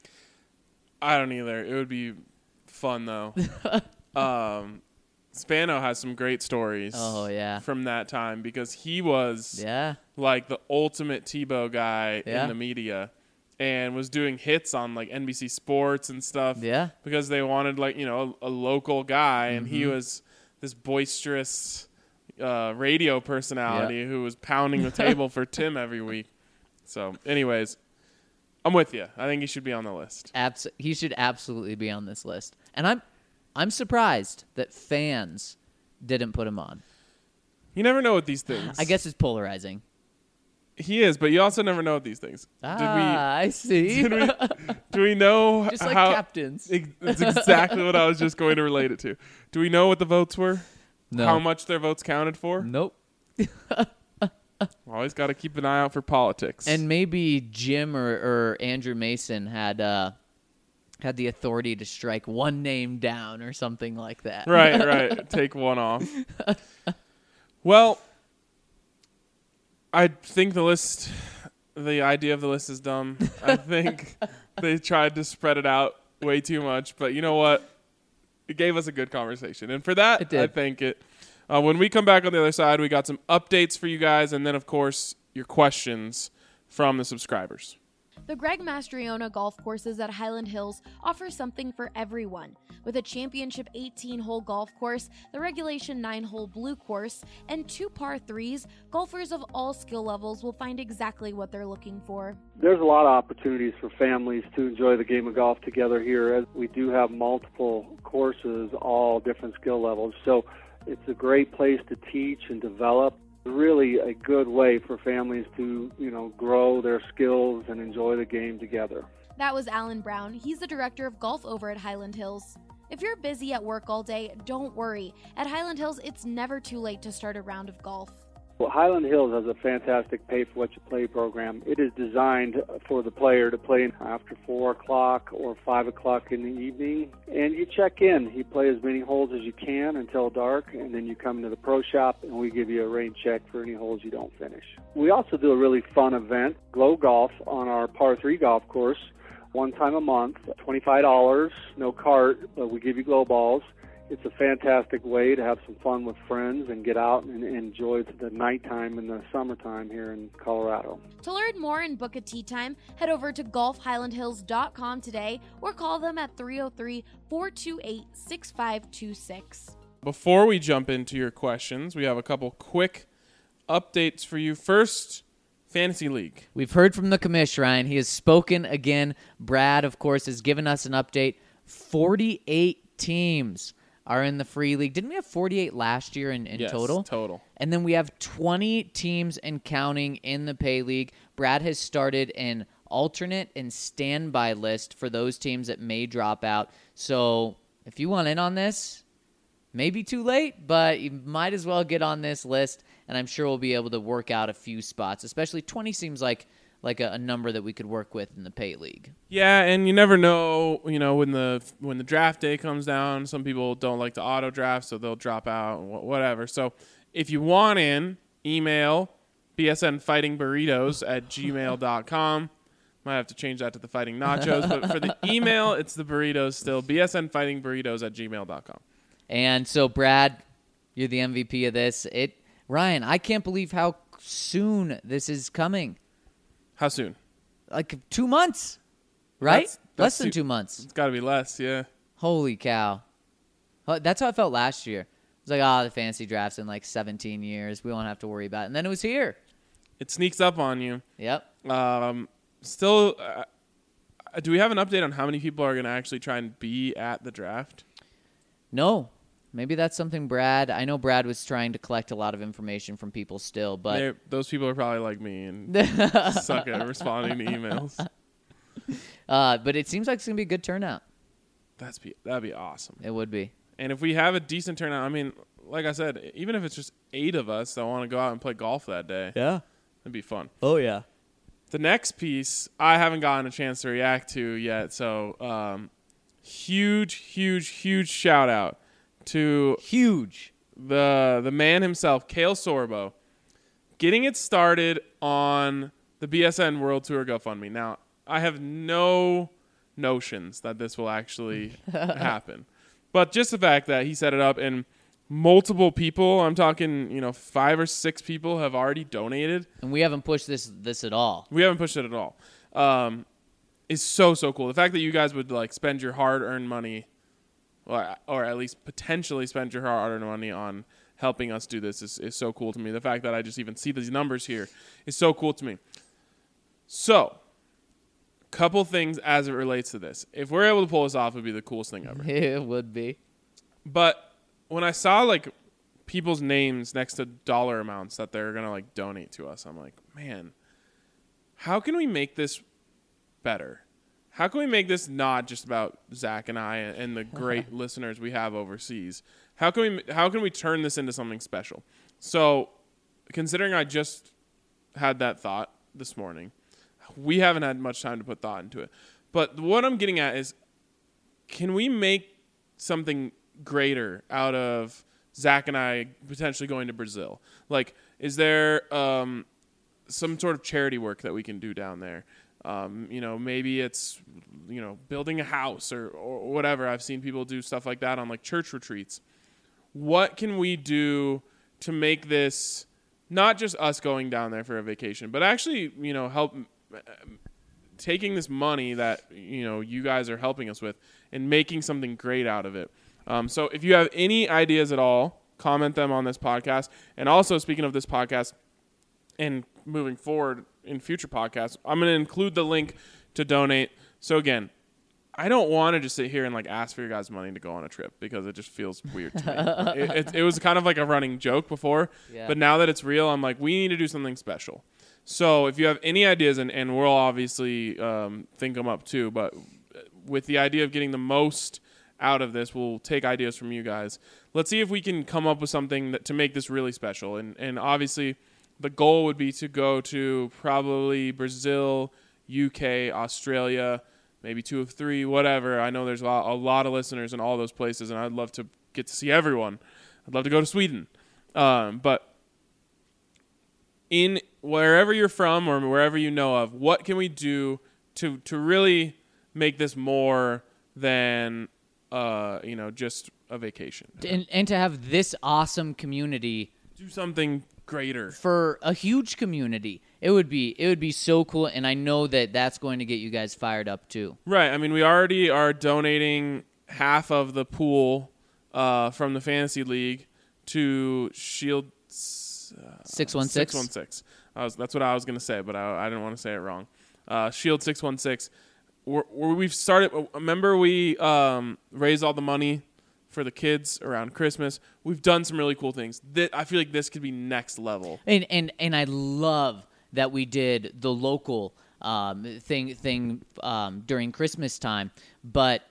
I don't either. It would be fun though. um, Spano has some great stories. Oh, yeah. From that time because he was Yeah, like the ultimate Tebow guy Yeah. in the media, and was doing hits on like N B C Sports and stuff. Yeah. Because they wanted like you know a, a local guy, and he Mm-hmm. was this boisterous uh, radio personality who was pounding the table for Tim every week. So, anyways, I'm with you. I think he should be on the list. abs- he should absolutely be on this list. And I'm I'm surprised that fans didn't put him on. You never know with these things. I guess it's polarizing. he is, but you also never know with these things. Ah, I see. Did we? Did we? Do we know Just like how? captains. Ex- That's exactly what I was just going to relate it to. Do we know what the votes were? No. How much their votes counted for? Nope. Always got to keep an eye out for politics. And maybe Jim or, or Andrew Mason had uh, had the authority to strike one name down or something like that. right, right. Take one off. Well, I think the list, the idea of the list is dumb. I think they tried to spread it out way too much. But you know what? It gave us a good conversation. And for that, It did. I thank it. Uh, when we come back on the other side, we got some updates for you guys. And then, of course, your questions from the subscribers. The Greg Mastriona golf courses at Highland Hills offer something for everyone. With a championship eighteen-hole golf course, the regulation nine-hole blue course, and two par threes, golfers of all skill levels will find exactly what they're looking for. There's a lot of opportunities for families to enjoy the game of golf together here, as we do have multiple courses, all different skill levels. So it's a great place to teach and develop. Really a good way for families to, you know, grow their skills and enjoy the game together. That was Alan Brown. He's the director of golf over at Highland Hills. If you're busy at work all day, don't worry. At Highland Hills, it's never too late to start a round of golf. Well, Highland Hills has a fantastic pay-for-what-you-play program. It is designed for the player to play after four o'clock or five o'clock in the evening, and you check in. You play as many holes as you can until dark, and then you come into the pro shop, and we give you a rain check for any holes you don't finish. We also do a really fun event, Glow Golf, on our par three golf course, one time a month, twenty-five dollars, no cart, but we give you glow balls. It's a fantastic way to have some fun with friends and get out and enjoy the nighttime and the summertime here in Colorado. To learn more and book a tee time, head over to golf highland hills dot com today or call them at three oh three, four two eight, six five two six. Before we jump into your questions, we have a couple quick updates for you. First, Fantasy League. We've heard from the commish, Ryan. He has spoken again. Brad, of course, has given us an update. forty-eight teams are in the free league. Didn't we have forty-eight last year in, in yes, total? total. And then we have twenty teams and counting in the pay league. Brad has started an alternate and standby list for those teams that may drop out. So if you want in on this, maybe too late, but you might as well get on this list, and I'm sure we'll be able to work out a few spots. Especially twenty seems like like a, a number that we could work with in the pay league. Yeah, and you never know, you know, when the when the draft day comes down, some people don't like the auto draft, so they'll drop out, whatever. So if you want in, email b s n fighting burritos at gmail dot com. Might have to change that to the Fighting Nachos, but for the email, it's the burritos still, b s n fighting burritos at gmail dot com. And so, Brad, you're the M V P of this. It, Ryan, I can't believe how soon this is coming. How soon? Like two months, right? That's, that's less than too, two months. It's got to be less, yeah. Holy cow. That's how I felt last year. It was like, oh, the fantasy draft's in like seventeen years. We won't have to worry about it. And then it was here. It sneaks up on you. Yep. Um, still, uh, do we have an update on how many people are going to actually try and be at the draft? No. Maybe that's something Brad, I know Brad was trying to collect a lot of information from people still, but They're, those people are probably like me and suck at responding to emails. Uh, but it seems like it's going to be a good turnout. That's be, that'd be awesome. It would be. And if we have a decent turnout, I mean, like I said, even if it's just eight of us that want to go out and play golf that day, Yeah. it'd be fun. Oh, yeah. The next piece, I haven't gotten a chance to react to yet, so um, huge, huge, huge shout out to Huge. the the man himself, Kale Sorbo, getting it started on the B S N World Tour GoFundMe. Now, I have no notions that this will actually happen. But just the fact that he set it up and multiple people, I'm talking, you know, five or six people have already donated. And we haven't pushed this this at all. We haven't pushed it at all. Um, is so, so cool. The fact that you guys would, like, spend your hard-earned money, or, or at least potentially spend your hard-earned money on helping us do this is, is so cool to me. The fact that I just even see these numbers here is so cool to me. So, couple things as it relates to this. If we're able to pull this off, it would be the coolest thing ever. It would be. But when I saw, like, people's names next to dollar amounts that they're going to, like, donate to us, I'm like, man, how can we make this better? How can we make this not just about Zach and I and the great listeners we have overseas? How can we how can we turn this into something special? So, considering I just had that thought this morning, we haven't had much time to put thought into it. But what I'm getting at is, can we make something greater out of Zach and I potentially going to Brazil? Like, is there um, some sort of charity work that we can do down there? Um, you know, maybe it's, you know, building a house or, or whatever. I've seen people do stuff like that on, like, church retreats. What can we do to make this not just us going down there for a vacation, but actually, you know, help taking this money that, you know, you guys are helping us with and making something great out of it. Um, so if you have any ideas at all, comment them on this podcast. And also, speaking of this podcast and moving forward in future podcasts, I'm going to include the link to donate. So again, I don't want to just sit here and, like, ask for your guys' money to go on a trip because it just feels weird to me. it, it, it was kind of like a running joke before, Yeah. but now that it's real, I'm like, we need to do something special. So if you have any ideas, and, and we'll obviously um, think them up too, but with the idea of getting the most out of this, we'll take ideas from you guys. Let's see if we can come up with something that to make this really special. And and obviously the goal would be to go to probably Brazil, U K, Australia, maybe two of three, whatever. I know there's a lot, a lot of listeners in all those places, and I'd love to get to see everyone. I'd love to go to Sweden. Um, but in wherever you're from or wherever you know of, what can we do to to really make this more than uh, you know, just a vacation? And, and to have this awesome community Do something greater. for a huge community, it would be it would be so cool. And I know that that's going to get you guys fired up too. Right. I mean, we already are donating half of the pool uh, from the fantasy league to Shield uh, six one six six one six. I was, that's what I was going to say, but I, I didn't want to say it wrong. Uh, Shield six one six. We're, we've started. Remember, we um, raised all the money for the kids around Christmas. We've done some really cool things. Th- I feel like this could be next level. And and and I love that we did the local um, thing thing um, during Christmas time, but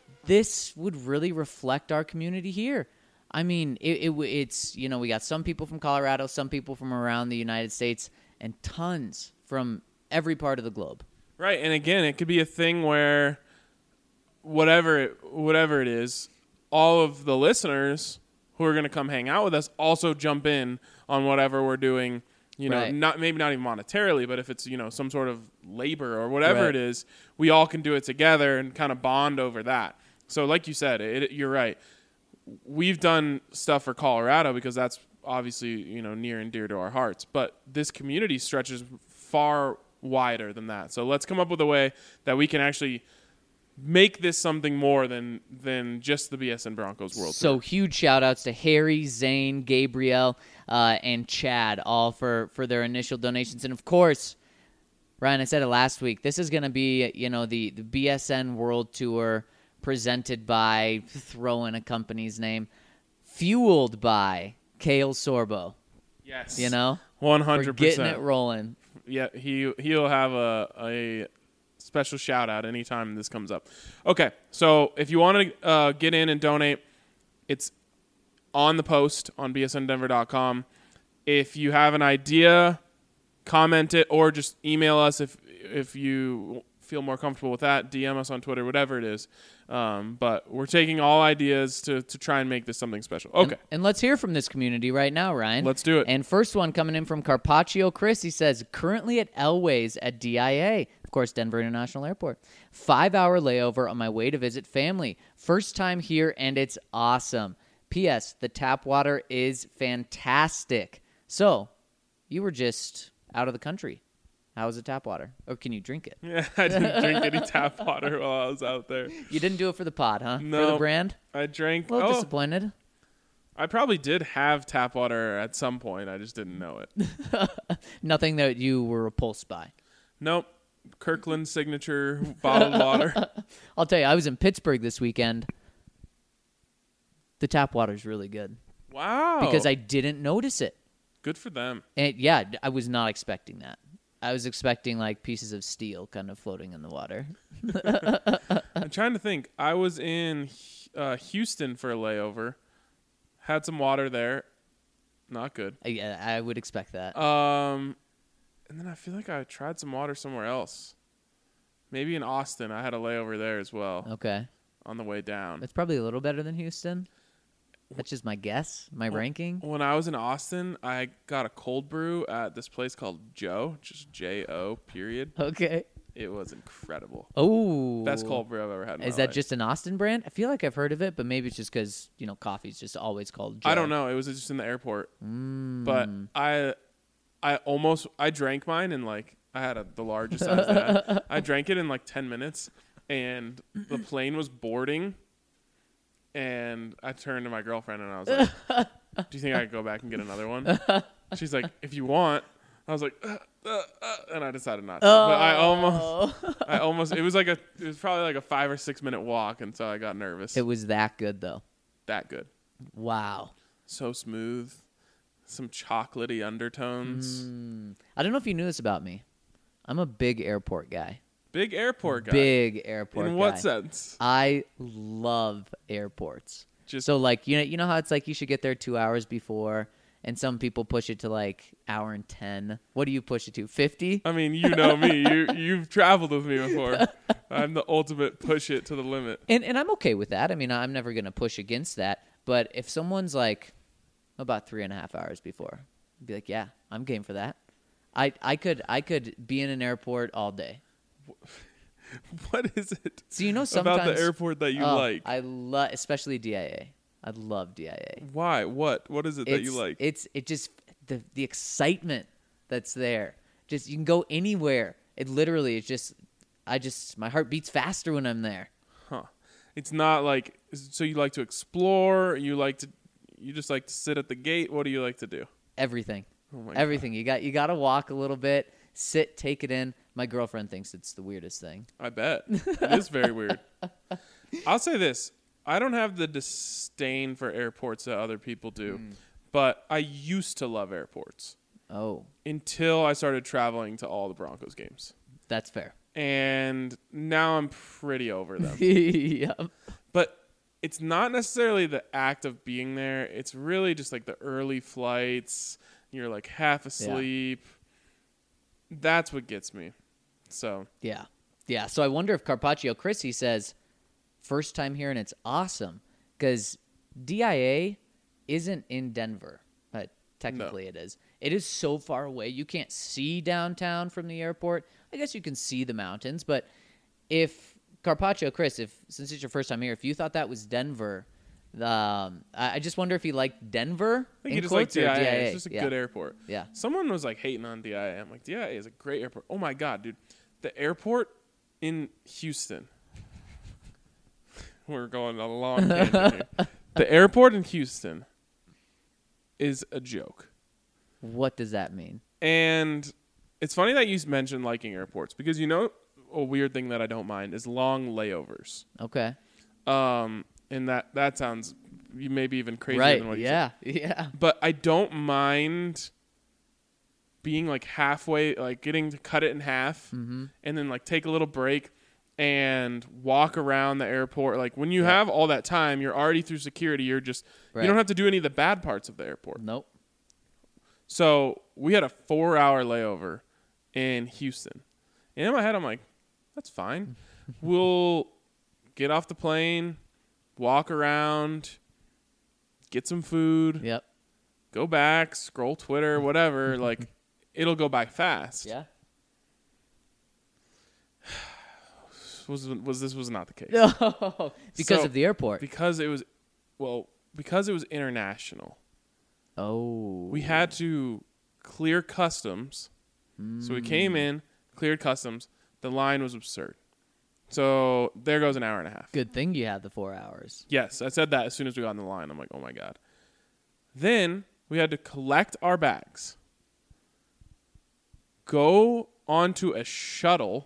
this would really reflect our community here. I mean, it, it it's you know we got some people from Colorado, some people from around the United States, and tons from every part of the globe. Right, and again, it could be a thing where whatever it, whatever it is, all of the listeners who are going to come hang out with us also jump in on whatever we're doing. You know, Right. not maybe not even monetarily, but if it's, you know, some sort of labor or whatever Right. it is, we all can do it together and kind of bond over that. So, like you said, it, you're right. We've done stuff for Colorado because that's obviously, you know, near and dear to our hearts. But this community stretches far wider than that. So let's come up with a way that we can actually make this something more than than just the B S N Broncos World So Tour. huge shout outs to Harry, Zane, Gabriel, uh, and Chad, all for, for their initial donations. And of course, Ryan, I said it last week, this is going to be, you know, the, the B S N World Tour presented by, throw in a company's name, fueled by Kale Sorbo. Yes. You know? one For hundred getting percent. it rolling. Yeah, he he'll have a a special shout out anytime this comes up. Okay, so if you want to uh, get in and donate, it's on the post on b s n denver dot com. If you have an idea, comment it or just email us if if you feel more comfortable with that. D M us on Twitter, whatever it is. Um, but we're taking all ideas to to try and make this something special. Okay, And, and let's hear from this community right now, Ryan. Let's do it. And first one coming in from Carpaccio Chris. He says, currently at Elways at D I A, of course, Denver International Airport. Five-hour layover on my way to visit family. First time here, and it's awesome. P S. The tap water is fantastic. So, you were just out of the country. How was the tap water? Or can you drink it? yeah, I didn't drink any tap water while I was out there. You didn't do it for the pod, huh? For the No. brand? I drank. A little oh, disappointed. I probably did have tap water at some point. I just didn't know it. Nothing that you were repulsed by. Nope. Kirkland signature bottled water. I'll tell you, I was in Pittsburgh this weekend. The tap water's really good Wow. because I didn't notice it. Good for them. And yeah, I was not expecting that. I was expecting like pieces of steel kind of floating in the water. I'm trying to think. I was in uh, Houston for a layover. Had some water there. Not good. I, I would expect that. Um, and then I feel like I tried some water somewhere else. Maybe in Austin. I had a layover there as well Okay. on the way down. That's probably a little better than Houston. That's just my guess, my ranking. When I was in Austin, I got a cold brew at this place called Joe, just J O period. Okay. It was incredible. Oh. Best cold brew I've ever had in Is my that life. just an Austin brand? I feel like I've heard of it, but maybe it's just because, you know, coffee's just always called Joe. I don't know. It was just in the airport. Mm. But I I almost I drank mine in like I had a, the largest size that. I drank it in like ten minutes and the plane was boarding and I turned to my girlfriend and I was like, "Do you think I could go back and get another one?" She's like, "If you want." I was like, uh, uh, uh, and I decided not to. Oh. But I almost I almost it was like a it was probably like a five or six minute walk and so I got nervous. It was that good, though. That good. Wow. So smooth. some chocolatey undertones. Mm. I don't know if you knew this about me. I'm a big airport guy. Big airport guy. Big airport In guy. what sense? I love airports. Just So like you know you know how it's like you should get there two hours before, and some people push it to like hour and ten. What do you push it to? Fifty? I mean, you know me. You you've traveled with me before. I'm the ultimate push it to the limit. And and I'm okay with that. I mean, I'm never gonna push against that. But if someone's like about three and a half hours before, I'd be like, yeah, I'm game for that. I I could I could be in an airport all day. What is it So you know sometimes about the airport that you oh, like? I love, especially D I A. I love D I A. Why? What? What is it that It's, you like? It's it just the the excitement that's there. Just you can go anywhere. It literally is just I just my heart beats faster when I'm there. Huh. It's not like so you like to explore, you like to you just like to sit at the gate. What do you like to do? Everything. Oh my Everything. You got you got to walk a little bit, sit, take it in. My girlfriend thinks it's the weirdest thing. I bet. It is very weird. I'll say this. I don't have the disdain for airports that other people do, Mm. but I used to love airports Oh, until I started traveling to all the Broncos games. that's fair. And now I'm pretty over them. yeah. But it's not necessarily the act of being there. It's really just like the early flights. You're like half asleep. That's what gets me. So Yeah. Yeah. So I wonder if Carpaccio Chrissy says, first time here and it's awesome. Because D I A isn't in Denver. But technically it is. It is so far away. You can't see downtown from the airport. I guess you can see the mountains. But if Carpaccio Chris, if since it's your first time here, if you thought that was Denver, um, I, I just wonder if he liked Denver. I think in you just like quotes, or D I A. D I A. It's just a Yeah. good airport. Yeah. Someone was like hating on D I A. I'm like, D I A is a great airport. Oh my God, dude. The airport in Houston. We're going on a long tangent here. The airport in Houston is a joke. What does that mean? And it's funny that you mentioned liking airports because you know a weird thing that I don't mind is long layovers. Okay. Um, and that that sounds maybe even crazier Right. than what you said. Yeah. Yeah. But I don't mind being like halfway, like getting to cut it in half Mm-hmm. and then like take a little break and walk around the airport. Like when you Yeah. have all that time, you're already through security. You're just, Right. you don't have to do any of the bad parts of the airport. Nope. So we had a four hour layover in Houston. And in my head, I'm like, that's fine. We'll get off the plane, walk around, get some food, Yep. go back, scroll Twitter, whatever. Like, it'll go by fast. Yeah. Was was this was not the case No, because So, of the airport. because it was, well, because it was international. Oh, We had to clear customs. So we came in, cleared customs. The line was absurd. So there goes an hour and a half. good thing you had the four hours. Yes, I said that as soon as we got on the line. I'm like, oh my God. Then we had to collect our bags, go onto a shuttle,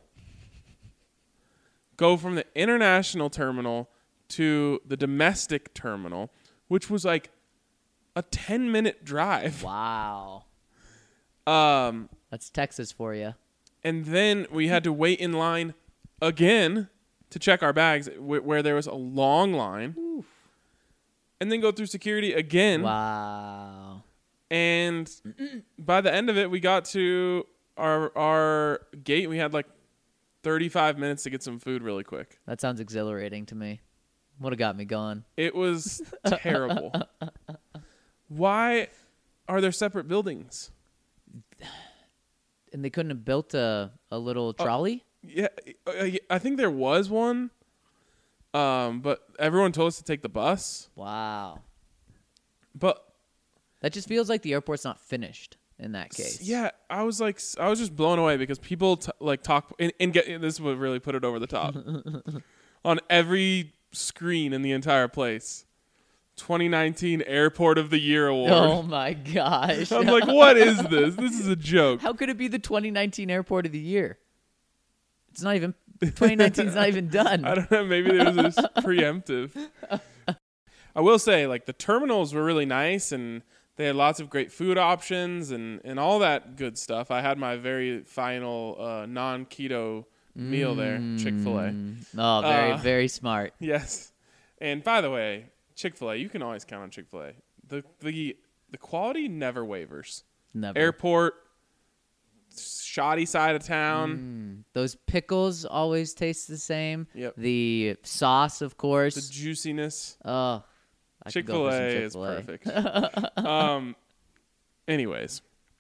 go from the international terminal to the domestic terminal, which was like a ten minute drive. Wow, Um, that's Texas for you. and then we had to wait in line again to check our bags wh- where there was a long line. And then go through security again. Wow. And by the end of it, we got to our our gate. We had like thirty-five minutes to get some food really quick. That sounds exhilarating to me. Would have got me going. It was terrible. Why are there separate buildings? And they couldn't have built a, a little trolley? Yeah, uh, I think there was one, um, but everyone told us to take the bus. Wow. But That just feels like the airport's not finished in that case. yeah, I was like, I was just blown away because people t- like talk and, and get this is what really put it over the top. On every screen in the entire place, twenty nineteen Airport of the Year award. Oh my gosh. I'm like, what is this? This is a joke. How could it be the twenty nineteen Airport of the Year? It's not even twenty nineteen is not even done. I don't know. Maybe there was this preemptive. I will say, like, the terminals were really nice, and they had lots of great food options and, and all that good stuff. I had my very final uh, non-keto meal there, Chick-fil-A. Oh, very, Uh, very smart. Yes. And by the way, Chick-fil-A, you can always count on Chick-fil-A. The the the quality never wavers. Never. Airport, shoddy side of town, Those pickles always taste the same. Yep. The sauce, of the course. juiciness. Oh, I could go for some Chick-fil-A is Chick-fil-A. perfect. um, anyways,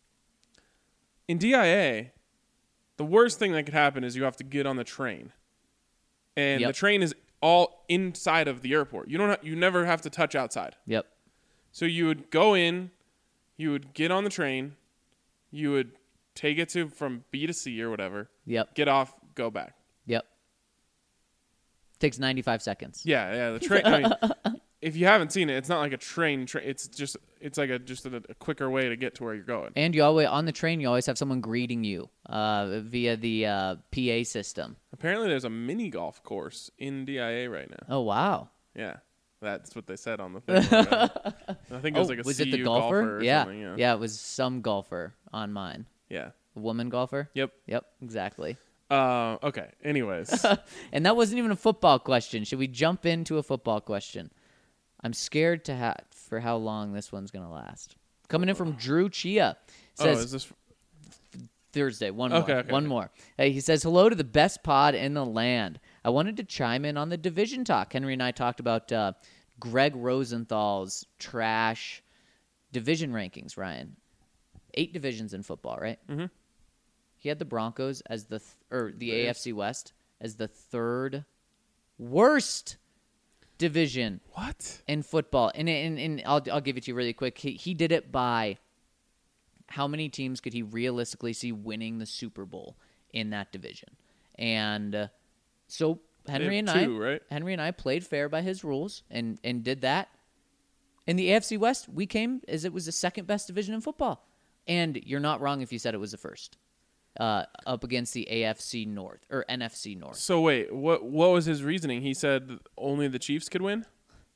in D I A, the worst thing that could happen is you have to get on the train, and Yep. the train is all inside of the airport. You don't. Ha- you never have to touch outside. Yep. So you would go in, you would get on the train, you would take it to from B to C or whatever, Yep. get off, go back. Yep. Takes ninety-five seconds. Yeah, yeah. The train. I mean, if you haven't seen it, it's not like a train. Tra- it's just it's like a just a, a quicker way to get to where you're going. And you always on the train, you always have someone greeting you uh, via the uh, P A system. Apparently, there's a mini golf course in D I A right now. Oh wow! Yeah, that's what they said on the thing. I think it was Oh, like a was C it the U golfer? or yeah, something. Yeah. yeah, it was some golfer on mine. Yeah. A woman golfer. Yep. Yep, exactly. Uh, okay. Anyways, And that wasn't even a football question. Should we jump into a football question? I'm scared to ha- for how long this one's gonna last. Coming in from Drew Chia oh, says is this? Thursday. One Okay, more. okay, one okay. more. Hey, he says, hello to the best pod in the land. I wanted to chime in on the division talk. Henry and I talked about uh, Greg Rosenthal's trash division rankings, Ryan. Eight divisions in football, right? Mhm. He had the Broncos as the, th- or the A F C West as the third worst division What? in football. And, and, and I'll, I'll give it to you really quick. He, he did it by how many teams could he realistically see winning the Super Bowl in that division. And uh, so Henry and have two, I right? Henry and I played fair by his rules and, and did that. In the A F C West, we came as it was the second best division in football. And you're not wrong if you said it was the first. Uh, up against the A F C North or N F C North. So wait, what? What was his reasoning? He said only the Chiefs could win.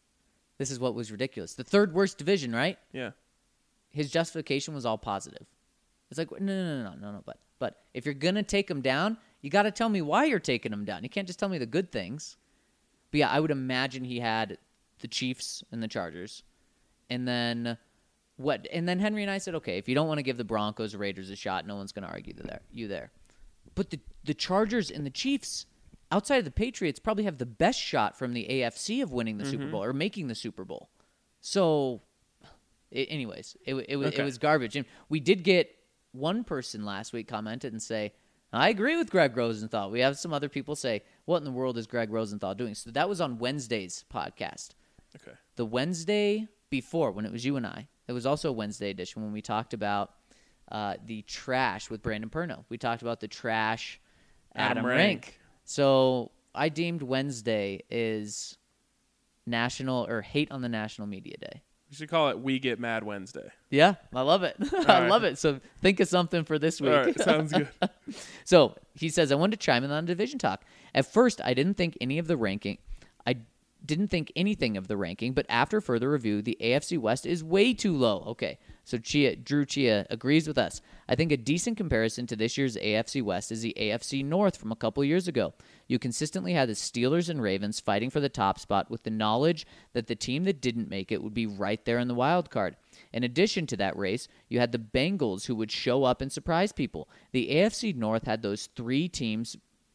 This is what was ridiculous. The third worst division, right? Yeah. His justification was all positive. It's like, no, no, no, no, no, no. But, but if you're going to take him down, you got to tell me why you're taking him down. You can't just tell me the good things. But yeah, I would imagine he had the Chiefs and the Chargers. And then what? And then Henry and I said, okay, if you don't want to give the Broncos or Raiders a shot, no one's going to argue there, you there. But the, the Chargers and the Chiefs, outside of the Patriots, probably have the best shot from the A F C of winning the Super Bowl or making the Super Bowl. So... It, anyways, it, it, was Okay. it was garbage. And we did get one person last week commented and say, I agree with Greg Rosenthal. We have some other people say, what in the world is Greg Rosenthal doing? So that was on Wednesday's podcast. Okay. The Wednesday before, when it was you and I, it was also a Wednesday edition when we talked about uh, the trash with Brandon Perno. We talked about the trash Adam, Adam Rank. Rank. So I deemed Wednesday is National or Hate on the National Media Day. We should call it We Get Mad Wednesday. Yeah, I love it. I right. love it. So think of something for this week. All right, sounds good. So he says, I wanted to chime in on division talk. At first, I didn't think any of the ranking. I didn't think anything of the ranking, but after further review, the A F C West is way too low. Okay, so Chia, Drew Chia agrees with us. I think a decent comparison to this year's A F C West is the A F C North from a couple years ago. You consistently had the Steelers and Ravens fighting for the top spot with the knowledge that the team that didn't make it would be right there in the wild card. In addition to that race, you had the Bengals who would show up and surprise people. The A F C North had those three teams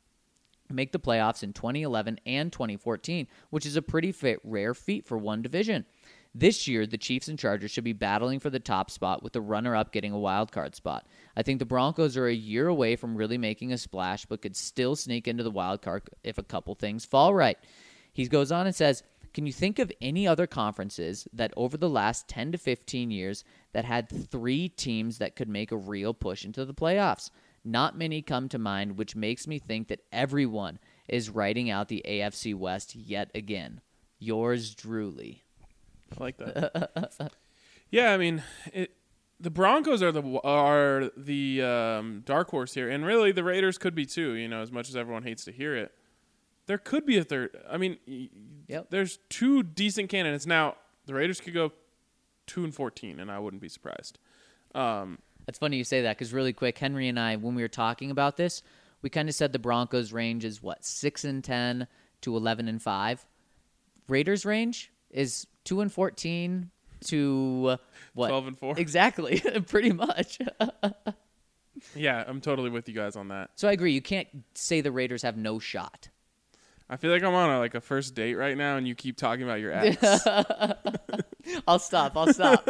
make the playoffs in twenty eleven and twenty fourteen, which is a pretty fa- rare feat for one division. This year, the Chiefs and Chargers should be battling for the top spot with the runner-up getting a wild card spot. I think the Broncos are a year away from really making a splash, but could still sneak into the wild card if a couple things fall right. He goes on and says, can you think of any other conferences that over the last ten to fifteen years that had three teams that could make a real push into the playoffs? Not many come to mind, which makes me think that everyone is writing out the A F C West yet again. Yours, Drewly. I like that. Yeah, I mean, it, the Broncos are the are the um, dark horse here, and really the Raiders could be too. You know, as much as everyone hates to hear it, there could be a third. I mean, y- Yep. there's two decent candidates now. The Raiders could go two and fourteen, and I wouldn't be surprised. Um, That's funny you say that because really quick, Henry and I, when we were talking about this, we kind of said the Broncos' range is what six and ten to eleven and five. Raiders' range is two and fourteen to uh, what? twelve and four. Exactly, pretty much. Yeah, I'm totally with you guys on that. So I agree. You can't say the Raiders have no shot. I feel like I'm on a, like a first date right now, and you keep talking about your ex. I'll stop. I'll stop.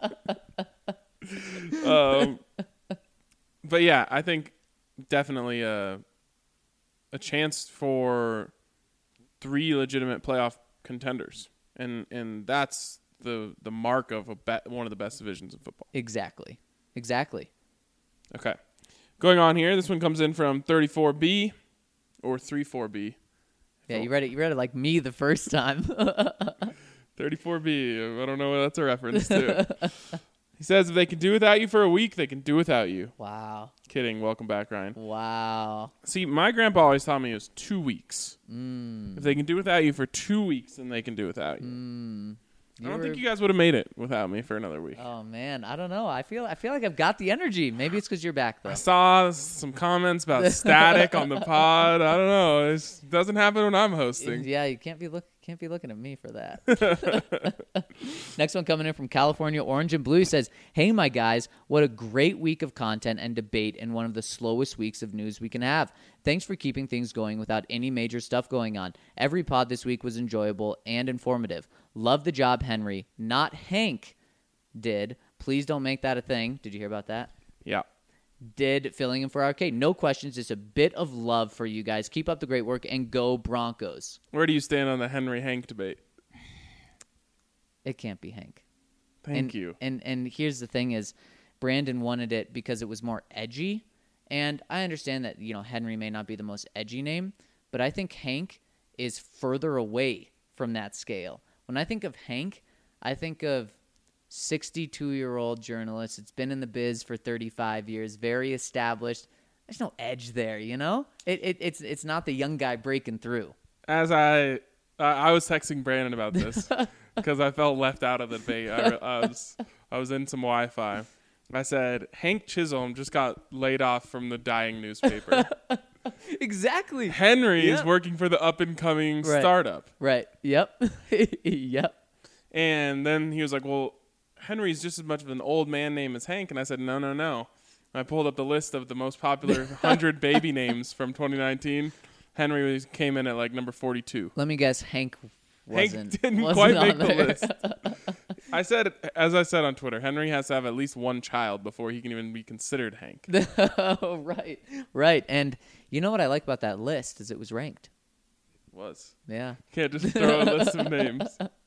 um, but yeah, I think definitely a a chance for three legitimate playoff contenders, and and that's the the mark of a be- one of the best divisions in football. Exactly. Exactly. Okay, going on here. This one comes in from thirty-four B or thirty-four B. Yeah, you read it. You read it like me the first time. thirty-four B. I don't know what that's a reference to. He says if they can do without you for a week, they can do without you. Wow. Kidding. Welcome back, Ryan. Wow. See, my grandpa always taught me it was two weeks. Mm. If they can do without you for two weeks, then they can do without you. Mm. I don't were- think you guys would have made it without me for another week. Oh man, I don't know. I feel I feel like I've got the energy. Maybe it's because you're back though. I saw some comments about static on the pod. I don't know. It doesn't happen when I'm hosting. Yeah, you can't be look can't be looking at me for that. Next one coming in from California Orange and Blue says, "Hey my guys, what a great week of content and debate and one of the slowest weeks of news we can have. Thanks for keeping things going without any major stuff going on. Every pod this week was enjoyable and informative. Love the job Henry, not Hank, did. Please don't make that a thing." Did you hear about that? Yeah. Did filling in for Arcade. No questions. Just a bit of love for you guys. Keep up the great work and go Broncos. Where do you stand on the Henry Hank debate? It can't be Hank. Thank and, you. And and here's the thing is, Brandon wanted it because it was more edgy. And I understand that, you know, Henry may not be the most edgy name, but I think Hank is further away from that scale. When I think of Hank, I think of sixty-two-year-old journalist. It's been in the biz for thirty-five years, very established. There's no edge there, you know? It, it it's it's not the young guy breaking through. As I uh, I was texting Brandon about this because I felt left out of the debate. I, I was I was in some Wi-Fi. I said Hank Chisholm just got laid off from the dying newspaper. Exactly. Henry Yep. is working for the up-and-coming Right. startup. Right. Yep. Yep. And then he was like, well, Henry's just as much of an old man name as Hank. And I said, no, no, no. And I pulled up the list of the most popular one hundred baby names from twenty nineteen. Henry was, came in at like number forty-two. Let me guess, Hank wasn't. Hank didn't wasn't quite on make the there. list. I said, as I said on Twitter, Henry has to have at least one child before he can even be considered Hank. Oh, right. Right. And you know what I like about that list is it was ranked. Was. Yeah. Can't just throw a list of names.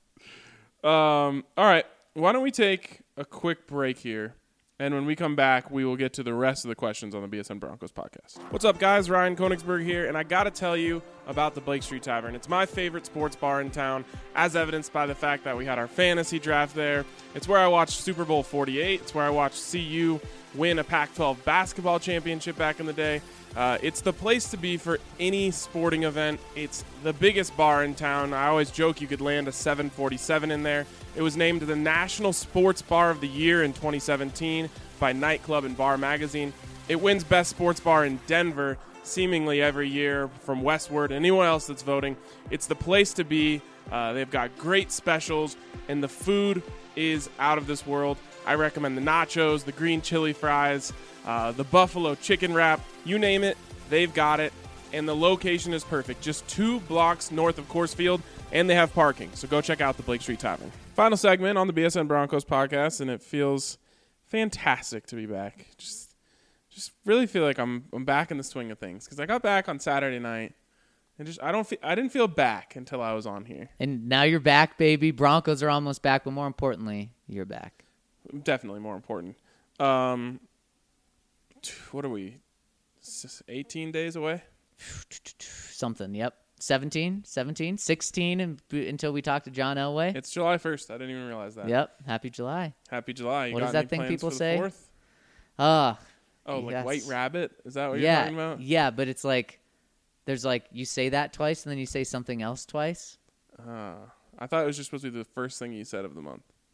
Um, all right. Why don't we take a quick break here? And when we come back, we will get to the rest of the questions on the B S N Broncos podcast. What's up, guys? Ryan Koenigsberg here, and I got to tell you about the Blake Street Tavern. It's my favorite sports bar in town, as evidenced by the fact that we had our fantasy draft there. It's where I watched Super Bowl forty-eight. It's where I watched C U win a Pac twelve basketball championship back in the day. Uh, it's the place to be for any sporting event. It's the biggest bar in town. I always joke you could land a seven forty-seven in there. It was named the National Sports Bar of the Year in twenty seventeen by Nightclub and Bar Magazine. It wins Best Sports Bar in Denver seemingly every year from Westward. Anyone else that's voting, it's the place to be. Uh, they've got great specials, and the food is out of this world. I recommend the nachos, the green chili fries, uh, the buffalo chicken wrap. You name it, they've got it. And the location is perfect. Just two blocks north of Coors Field, and they have parking. So go check out the Blake Street Tavern. Final segment on the B S N Broncos podcast, and it feels fantastic to be back. Just just really feel like I'm I'm back in the swing of things. Because I got back on Saturday night, and just I don't feel, I didn't feel back until I was on here. And now you're back, baby. Broncos are almost back, but more importantly, you're back. Definitely more important. Um, what are we? eighteen days away? Something, yep. seventeen, seventeen, sixteen and, until we talk to John Elway. It's July first. I didn't even realize that. Yep. Happy July. Happy July. You What got is that any thing plans people for the say? fourth? Ah. Oh, like yes. White Rabbit? Is that what yeah, you're talking about? Yeah, but it's like, there's like, you say that twice and then you say something else twice. Uh, I thought it was just supposed to be the first thing you said of the month.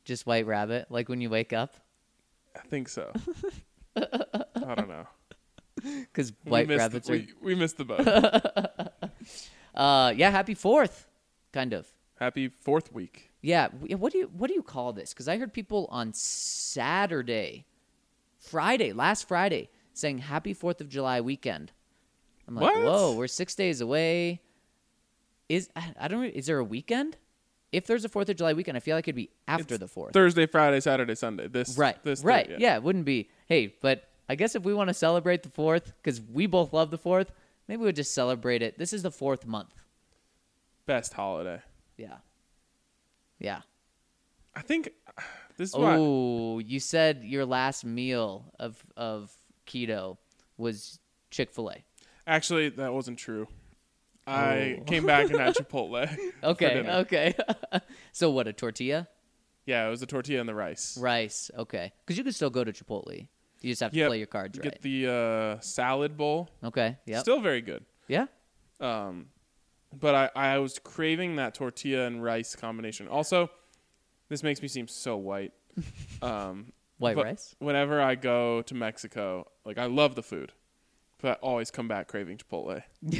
Just White Rabbit, like when you wake up? I think so. I don't know. Because We White missed Rabbits the, are... we, we missed the boat. Uh, yeah, happy fourth, kind of. Happy fourth week. Yeah, w- what do you what do you call this? Because I heard people on Saturday, Friday, last Friday, saying Happy Fourth of July weekend. I'm like, What? whoa, we're six days away. Is I I don't. Is there a weekend? If there's a Fourth of July weekend, I feel like it'd be after It's the fourth. Thursday, Friday, Saturday, Sunday. This Right, This right, day, yeah. It wouldn't be. Hey, but I guess if we want to celebrate the fourth, because we both love the fourth, maybe we'll just celebrate it. This is the fourth month. Best holiday. Yeah, yeah. I think this is why. Oh, you said your last meal of of keto was Chick-fil-A. Actually, that wasn't true. I Oh. came back and had Chipotle. for Okay, dinner. okay. So what, a tortilla? Yeah, it was the tortilla and the rice. Rice, okay. Because you can still go to Chipotle. You just have to Yep. play your cards You right. Get the uh, salad bowl. Okay, yep. Still very good. Yeah? Um, but I, I was craving that tortilla and rice combination. Also, this makes me seem so white. Um, White but rice? Whenever I go to Mexico, like I love the food, but I always come back craving Chipotle.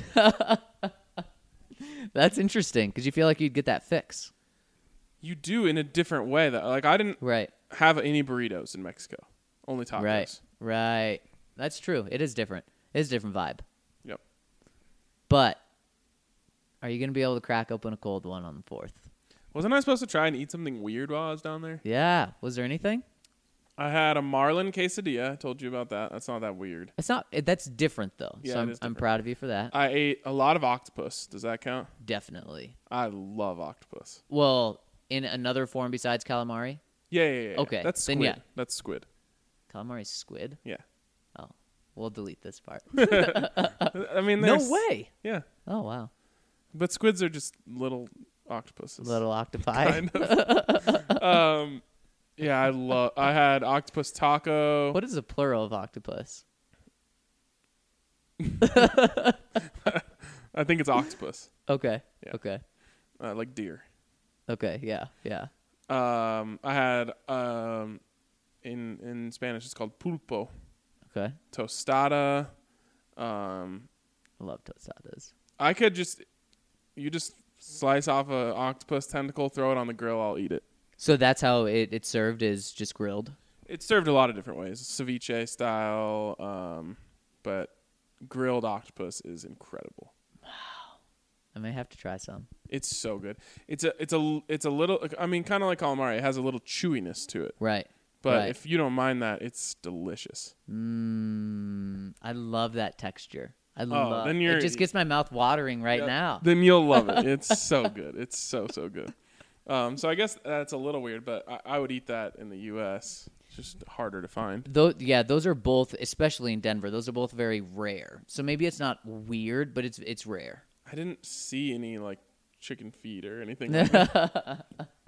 That's interesting because you feel like you'd get that fix. You do in a different way. That like I didn't Right, have any burritos in Mexico, only tacos. right, right. That's true. It is different. It is a different vibe. Yep. But are you going to be able to crack open a cold one on the fourth? Wasn't I supposed to try and eat something weird while I was down there? Yeah. Was there anything? I had a Marlin quesadilla. I told you about that. That's not that weird. It's not. It, that's different though. Yeah, so it I'm, is I'm different. proud of you for that. I ate a lot of octopus. Does that count? Definitely. I love octopus. Well, in another form besides calamari, Yeah, yeah, yeah. yeah. Okay, That's then squid. yeah. That's squid. calamari's squid. Yeah. Oh, we'll delete this part. I mean, No there's- way. Yeah, Oh wow, but squids are just little octopuses. little octopi. Kind of. um, yeah, I love. I had octopus taco. What is the plural of octopus? I think it's octopus, Okay. Yeah. Okay. uh, like deer. Okay. Yeah. Yeah. Um, I had um, in in Spanish it's called pulpo, Okay. tostada. Um, I love tostadas. I could just, you just slice off a octopus tentacle, throw it on the grill. I'll eat it. So that's how it, it's served, is just grilled. It's served a lot of different ways, ceviche style, um, but grilled octopus is incredible. I may have to try some. It's so good. It's a it's a it's a little. I mean, kind of like calamari. It has a little chewiness to it. Right. But right. if you don't mind that, it's delicious. Mmm. I love that texture. I love. Oh, then you're- it just gets my mouth watering right Yeah, now. Then you'll love it. It's so good. It's so so good. Um, so I guess that's a little weird, but I, I would eat that in the U S It's just harder to find. Those, yeah, those are both, especially in Denver. Those are both very rare. So maybe it's not weird, but it's it's rare. I didn't see any like chicken feet or anything. Like that.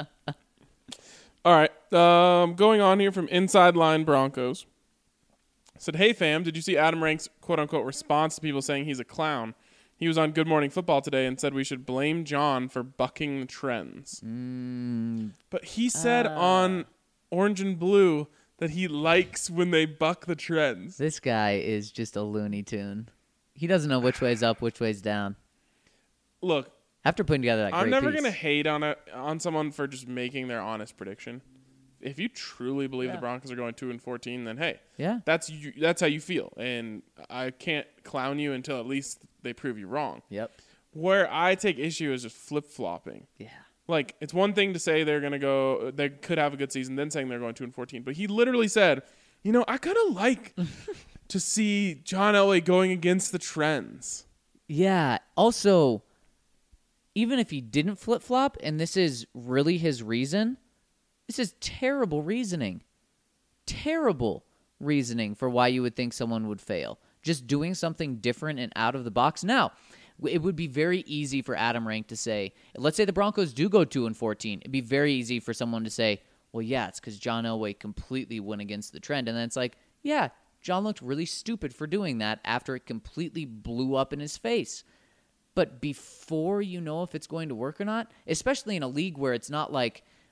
All right, um, going on here from Inside Line Broncos. Said, hey fam, did you see Adam Rank's quote unquote response to people saying he's a clown? He was on Good Morning Football today and said we should blame John for bucking the trends. Mm, But he said Ah. on Orange and Blue that he likes when they buck the trends. this guy is just a Looney Tune. He doesn't know which way's up, which way's down. Look, After putting together that I'm great never piece. gonna hate on a on someone for just making their honest prediction. If you truly believe Yeah. the Broncos are going two and fourteen, then hey, Yeah. that's you, that's how you feel, and I can't clown you until at least they prove you wrong. Yep. Where I take issue is just flip flopping. Yeah. Like it's one thing to say they're gonna go, they could have a good season, then saying they're going two and fourteen. But he literally said, you know, I kind of like to see John Elway going against the trends. Yeah. Also, even if he didn't flip flop, and this is really his reason, this is terrible reasoning. Terrible reasoning for why you would think someone would fail. Just doing something different and out of the box. Now, it would be very easy for Adam Rank to say, let's say the Broncos do go two and fourteen. It'd be very easy for someone to say, well, yeah, it's because John Elway completely went against the trend. And then it's like, yeah, John looked really stupid for doing that after it completely blew up in his face. But before you know if it's going to work or not, especially in a league where it's not like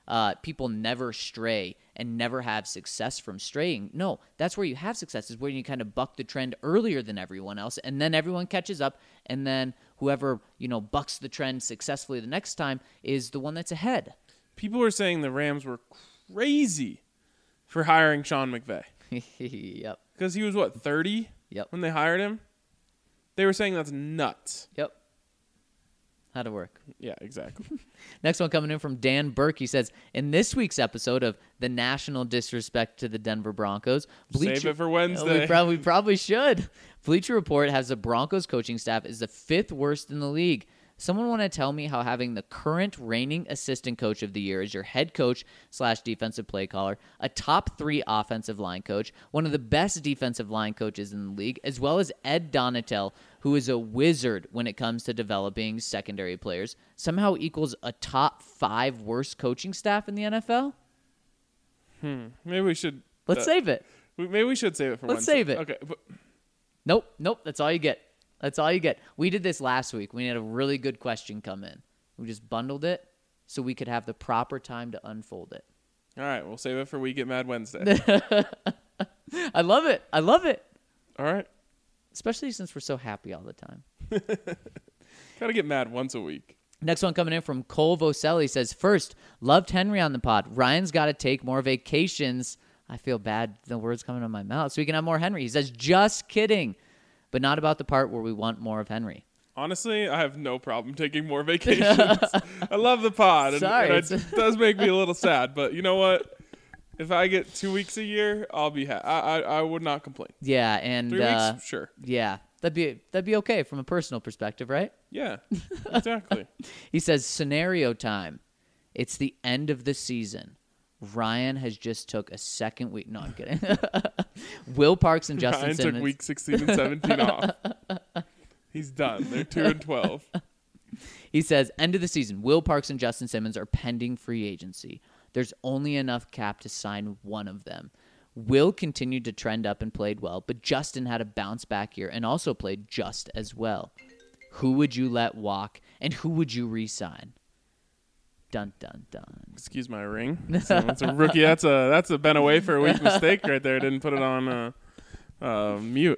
uh, people never stray and never have success from straying. No, that's where you have success, is where you kind of buck the trend earlier than everyone else, and then everyone catches up, and then whoever, you know, bucks the trend successfully the next time is the one that's ahead. People were saying the Rams were crazy for hiring Sean McVay. Yep. Because he was, what, thirty Yep. when they hired him? They were saying that's nuts. Yep. How'd it work? Yeah, exactly. Next one coming in from Dan Burke. He says, in this week's episode of the national disrespect to the Denver Broncos, Save it for Oh, Wednesday. we, probably, we probably should. Bleacher Report has the Broncos coaching staff is the fifth worst in the league. Someone want to tell me how having the current reigning assistant coach of the year as your head coach slash defensive play caller, a top three offensive line coach, one of the best defensive line coaches in the league, as well as Ed Donatel, who is a wizard when it comes to developing secondary players, somehow equals a top five worst coaching staff in the N F L? Hmm. Maybe we should. Let's uh, save it. we- Maybe we should save it for Let's Wednesday. save it. Okay. But Nope, nope. That's all you get. That's all you get. We did this last week. We had a really good question come in. We just bundled it so we could have the proper time to unfold it. all right, we'll save it for We Get Mad Wednesday. I love it. I love it. All right. Especially since we're so happy all the time. Gotta get mad once a week. Next one coming in from Cole Voselli says, first, loved Henry on the pod. Ryan's got to take more vacations. I feel bad. The words coming out of my mouth. So we can have more Henry. He says, just kidding. But not about the part where we want more of Henry. Honestly, I have no problem taking more vacations. I love the pod. And, Sorry, and it's- it does make me a little sad. But you know what? If I get two weeks a year, I'll be happy. I, I I would not complain. Yeah, and Three uh, weeks? Sure. yeah, that'd be that'd be okay from a personal perspective, right? Yeah, exactly. He says, scenario time. It's the end of the season. Ryan has just took a second week. No, I'm kidding. Will Parks and Justin Ryan Simmons. took week sixteen and seventeen off. He's done. They're two and twelve. He says, end of the season. Will Parks and Justin Simmons are pending free agency. There's only enough cap to sign one of them. Will continued to trend up and played well, but Justin had a bounce back year and also played just as well. Who would you let walk, and who would you re-sign? Dun, dun, dun. Excuse my ring. So that's a rookie. That's a that's a been away for a week mistake right there. Didn't put it on uh, uh, mute.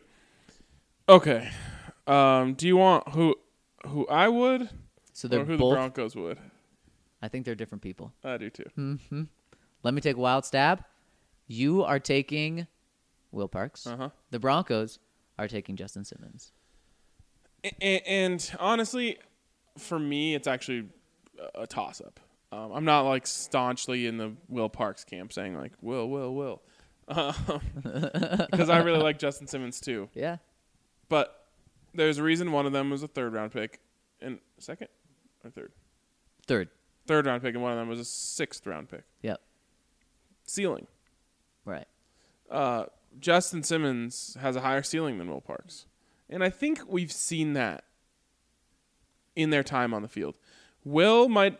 Okay. Um, do you want who who I would So or they're who both. the Broncos would? I think they're different people. I do too. Hmm. Let me take a wild stab. You are taking Will Parks. Uh huh. The Broncos are taking Justin Simmons. And, and honestly, for me, it's actually a toss up. Um, I'm not like staunchly in the Will Parks camp saying like Will, Will, Will, because I really like Justin Simmons too. Yeah. But there's a reason one of them was a third round pick, and second or third, Third. third round pick, and one of them was a sixth round pick. Yep. Ceiling. Right. Uh, Justin Simmons has a higher ceiling than Will Parks, and I think we've seen that in their time on the field. Will might.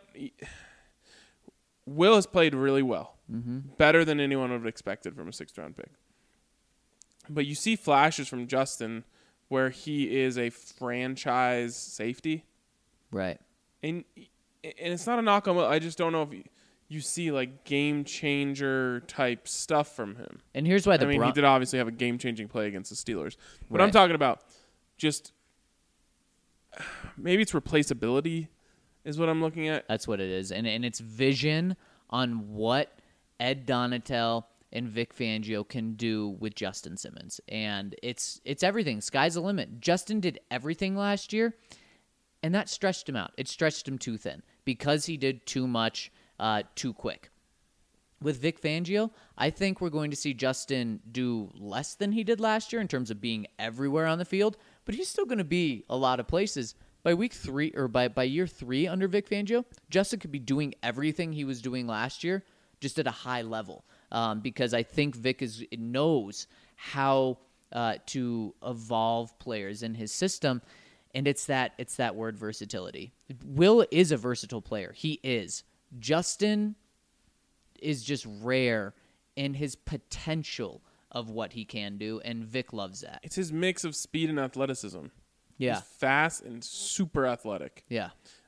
Will has played really well, mm-hmm. better than anyone would have expected from a sixth round pick. But you see flashes from Justin where he is a franchise safety, Right. and and it's not a knock on Will. I just don't know if you, you see like game changer type stuff from him. And here's why the I mean, Bron- he did obviously have a game changing play against the Steelers, but Right. I'm talking about just maybe it's replaceability is what I'm looking at. That's what it is. And and it's vision on what Ed Donatel and Vic Fangio can do with Justin Simmons. And it's it's everything. Sky's the limit. Justin did everything last year, and that stretched him out. It stretched him too thin because he did too much uh, too quick. With Vic Fangio, I think we're going to see Justin do less than he did last year in terms of being everywhere on the field, but he's still going to be a lot of places. By week three or by, by year three under Vic Fangio, Justin could be doing everything he was doing last year, just at a high level. Um, because I think Vic is knows how uh, to evolve players in his system, and it's that it's that word versatility. Will is a versatile player. He is. Justin is just rare in his potential of what he can do, and Vic loves that. It's his mix of speed and athleticism. Yeah. He's fast and super athletic. Yeah.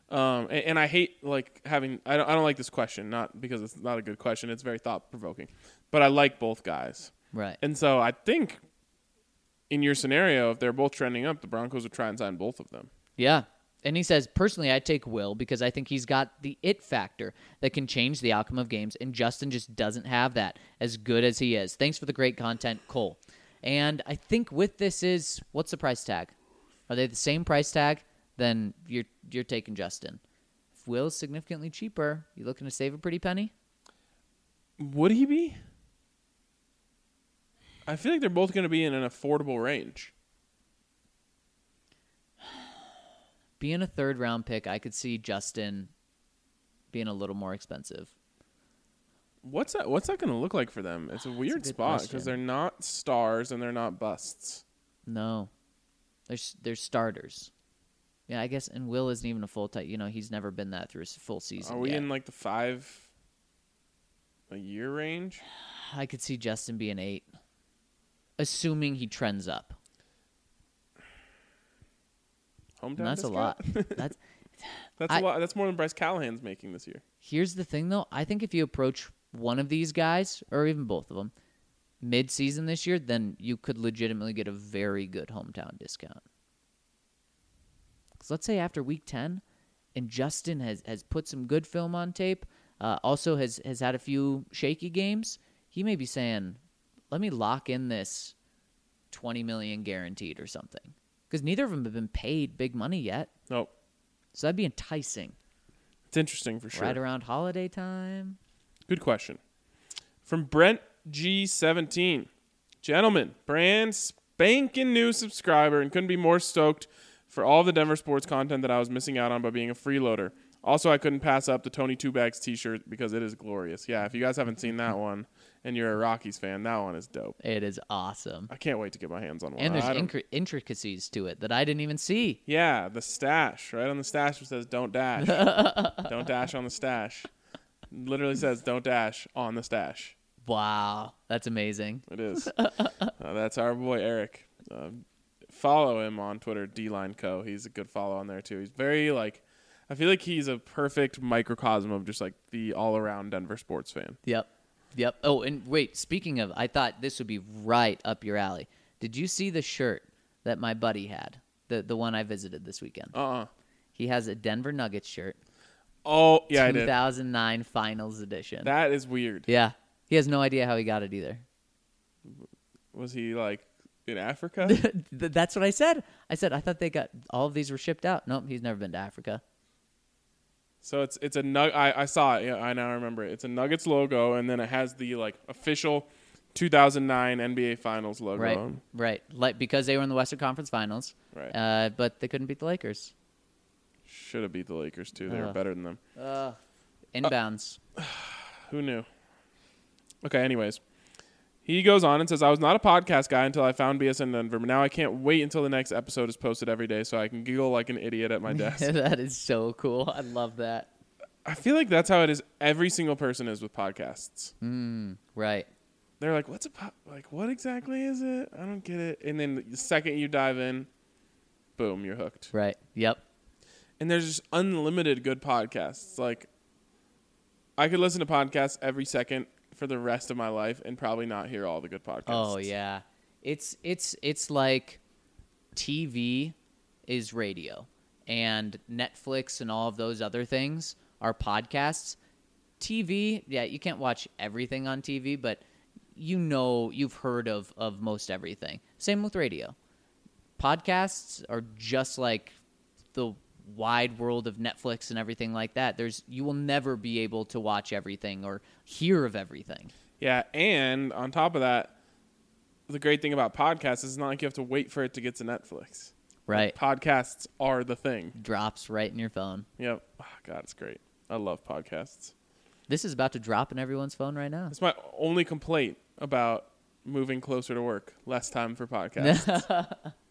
Um, and, and I hate like having. I don't. I don't like this question, not because it's not a good question. It's very thought provoking, but I like both guys. Right. And so I think in your scenario, if they're both trending up, the Broncos would try and sign both of them. Yeah. And he says, personally, I take Will because I think he's got the it factor that can change the outcome of games, and Justin just doesn't have that, as good as he is. Thanks for the great content, Cole. And I think with this is, what's the price tag? Are they the same price tag? Then you're you're taking Justin. If Will's significantly cheaper, you looking to save a pretty penny? Would he be? I feel like they're both going to be in an affordable range. Being a third round pick, I could see Justin being a little more expensive. What's that? What's that going to look like for them? It's a weird good spot question. because they're not stars and they're not busts. No, there's there's starters. Yeah, I guess, and Will isn't even a full time. You know, he's never been that through a full season. Are we yet. in like the five a year range? I could see Justin being eight, assuming he trends up. Hometown And that's discount? a lot. That's That's I- a lot. That's more than Bryce Callahan's making this year. Here's the thing, though. I think if you approach one of these guys, or even both of them, mid-season this year, then you could legitimately get a very good hometown discount. Because let's say after week ten, and Justin has, has put some good film on tape, uh, also has, has had a few shaky games, he may be saying, let me lock in this twenty million dollars guaranteed or something. Because neither of them have been paid big money yet. Nope. So that'd be enticing. It's interesting for sure. Right around holiday time. Good question. From Brent G seventeen. Gentlemen, brand spanking new subscriber and couldn't be more stoked for all the Denver sports content that I was missing out on by being a freeloader. Also, I couldn't pass up the Tony Two Bags t-shirt because it is glorious. Yeah, if you guys haven't seen that one and you're a Rockies fan, that one is dope. It is awesome. I can't wait to get my hands on one. And there's I don't- incri- intricacies to it that I didn't even see. Yeah, the stash. Right on the stash it says don't dash. Don't dash on the stash. Literally says don't dash on the stash. Wow, that's amazing. It is. uh, that's our boy Eric. Um, follow him on Twitter, D Line Co. He's a good follow on there too. He's very like, I feel like he's a perfect microcosm of just like the all around Denver sports fan. Yep. Yep. Oh, and wait, speaking of, I thought this would be right up your alley. Did you see the shirt that my buddy had? The the one I visited this weekend. Uh uh He has a Denver Nuggets shirt. Oh yeah, I did. two thousand nine Finals edition. That is weird. Yeah. He has no idea how he got it either. Was he like in Africa? Th- That's what I said. I said, I thought they got, all of these were shipped out. Nope, he's never been to Africa. So it's it's a nug. I, I saw it. Yeah, I now remember it. It's a Nuggets logo, and then it has the like official two thousand nine N B A Finals logo. Right, on. right. Like because they were in the Western Conference Finals, Right. uh, but they couldn't beat the Lakers. Should have beat the Lakers too. They were Ugh. better than them. Uh, inbounds. Who knew? Okay, anyways. He goes on and says, I was not a podcast guy until I found B S N Denver, but now I can't wait until the next episode is posted every day so I can giggle like an idiot at my desk. That is so cool. I love that. I feel like that's how it is. Every single person is with podcasts. Mm, right. They're like, what's a po-? Like, what exactly is it? I don't get it. And then the second you dive in, boom, you're hooked. Right. Yep. And there's just unlimited good podcasts. Like, I could listen to podcasts every second for the rest of my life and probably not hear all the good podcasts. Oh yeah. It's it's it's like T V is radio and Netflix and all of those other things are podcasts. T V, yeah, you can't watch everything on T V, but you know, you've heard of of most everything. Same with radio. Podcasts are just like the wide world of Netflix and everything like that. There's you will never be able to watch everything or hear of everything. Yeah, and on top of that, the great thing about podcasts is it's not like you have to wait for it to get to Netflix. Right. Podcasts are the thing. Drops right in your phone. Yep. Oh, God, it's great. I love podcasts. This is about to drop in everyone's phone right now. That's my only complaint about moving closer to work. Less time for podcasts.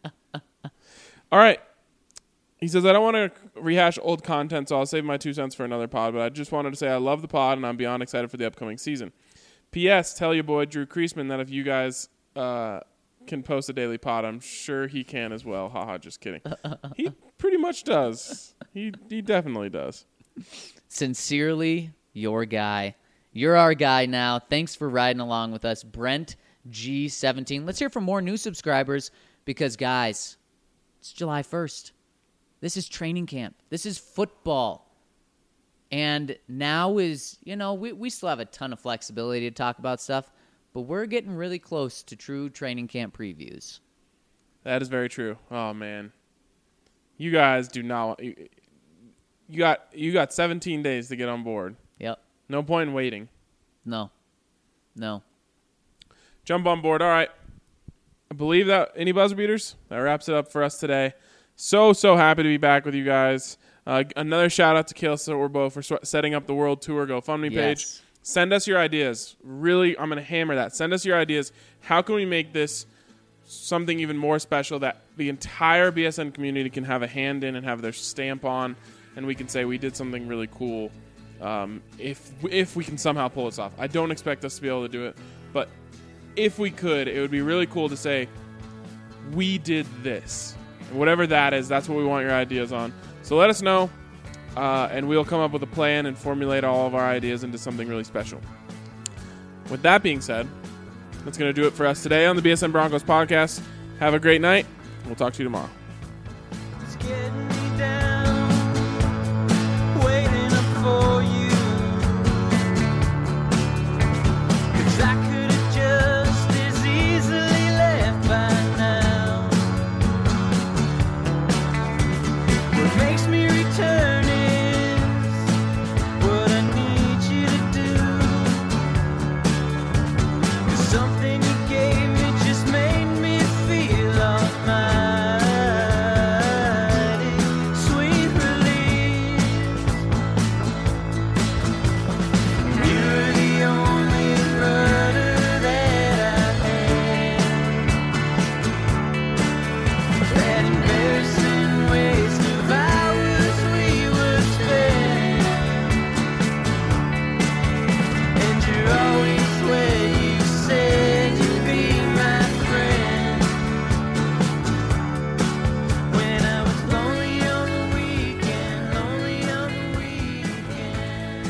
All right. He says, I don't want to rehash old content, so I'll save my two cents for another pod, but I just wanted to say I love the pod, and I'm beyond excited for the upcoming season. P S. Tell your boy Drew Kreisman that if you guys uh, can post a daily pod, I'm sure he can as well. Haha, just kidding. He pretty much does. He he definitely does. Sincerely, your guy. You're our guy now. Thanks for riding along with us, Brent G seventeen. Let's hear from more new subscribers because, guys, it's July first. This is training camp. This is football. And now is, you know, we, we still have a ton of flexibility to talk about stuff, but we're getting really close to true training camp previews. That is very true. Oh, man. You guys do not you, you got you got seventeen days to get on board. Yep. No point in waiting. No. No. Jump on board. All right. I believe that any buzzer beaters? That wraps it up for us today. So, so happy to be back with you guys. Uh, another shout out to Kale Sorbo for sw- setting up the World Tour GoFundMe page. Yes. Send us your ideas. Really, I'm going to hammer that. Send us your ideas. How can we make this something even more special that the entire B S N community can have a hand in and have their stamp on, and we can say we did something really cool um, if if we can somehow pull this off. I don't expect us to be able to do it, but if we could, it would be really cool to say we did this. And whatever that is, that's what we want your ideas on. So let us know, uh, and we'll come up with a plan and formulate all of our ideas into something really special. With that being said, that's going to do it for us today on the B S N Broncos podcast. Have a great night. We'll talk to you tomorrow. It's getting me down, waiting up for you. 'Cause I could have just as easily left by now. What makes me return is what I need you to do. 'Cause something you gave me just made me feel almighty. Sweet relief. You're the only rudder that I had. That embarrassing waste of hours we would spend. And you're always where you said you'd be my friend. When I was lonely on the weekend, lonely on the weekend.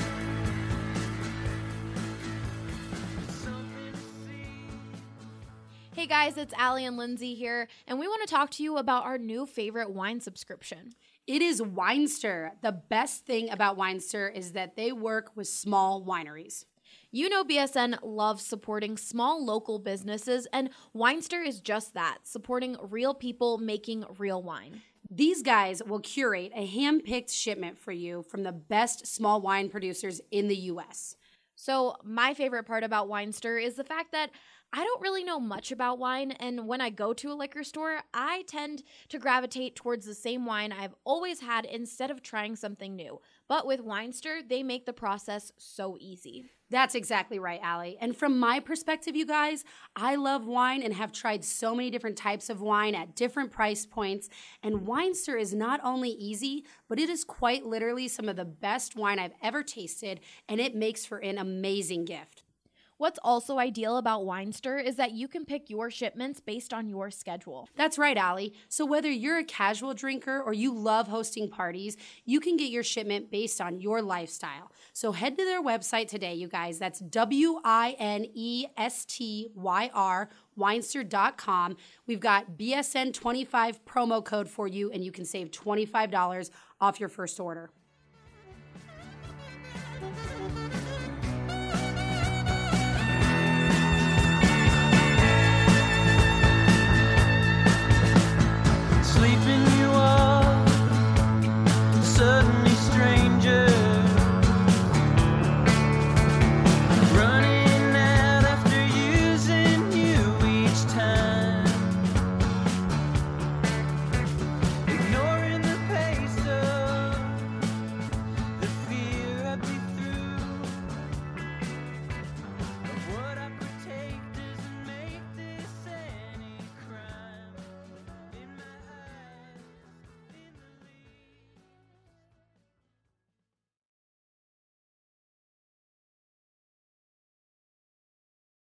Something to see. Hey guys, it's Allie and Lindsay here, and we want to talk to you about our new favorite wine subscription. It is Winester. The best thing about Winester is that they work with small wineries. You know B S N loves supporting small local businesses, and Winester is just that, supporting real people making real wine. These guys will curate a hand-picked shipment for you from the best small wine producers in the U S. So my favorite part about Winester is the fact that I don't really know much about wine, and when I go to a liquor store, I tend to gravitate towards the same wine I've always had instead of trying something new. But with Winester, they make the process so easy. That's exactly right, Allie. And from my perspective, you guys, I love wine and have tried so many different types of wine at different price points. And Winester is not only easy, but it is quite literally some of the best wine I've ever tasted, and it makes for an amazing gift. What's also ideal about Winester is that you can pick your shipments based on your schedule. That's right, Allie. So whether you're a casual drinker or you love hosting parties, you can get your shipment based on your lifestyle. So head to their website today, you guys. That's W I N E S T Y R, winester dot com. We've got B S N twenty-five promo code for you, and you can save twenty-five dollars off your first order.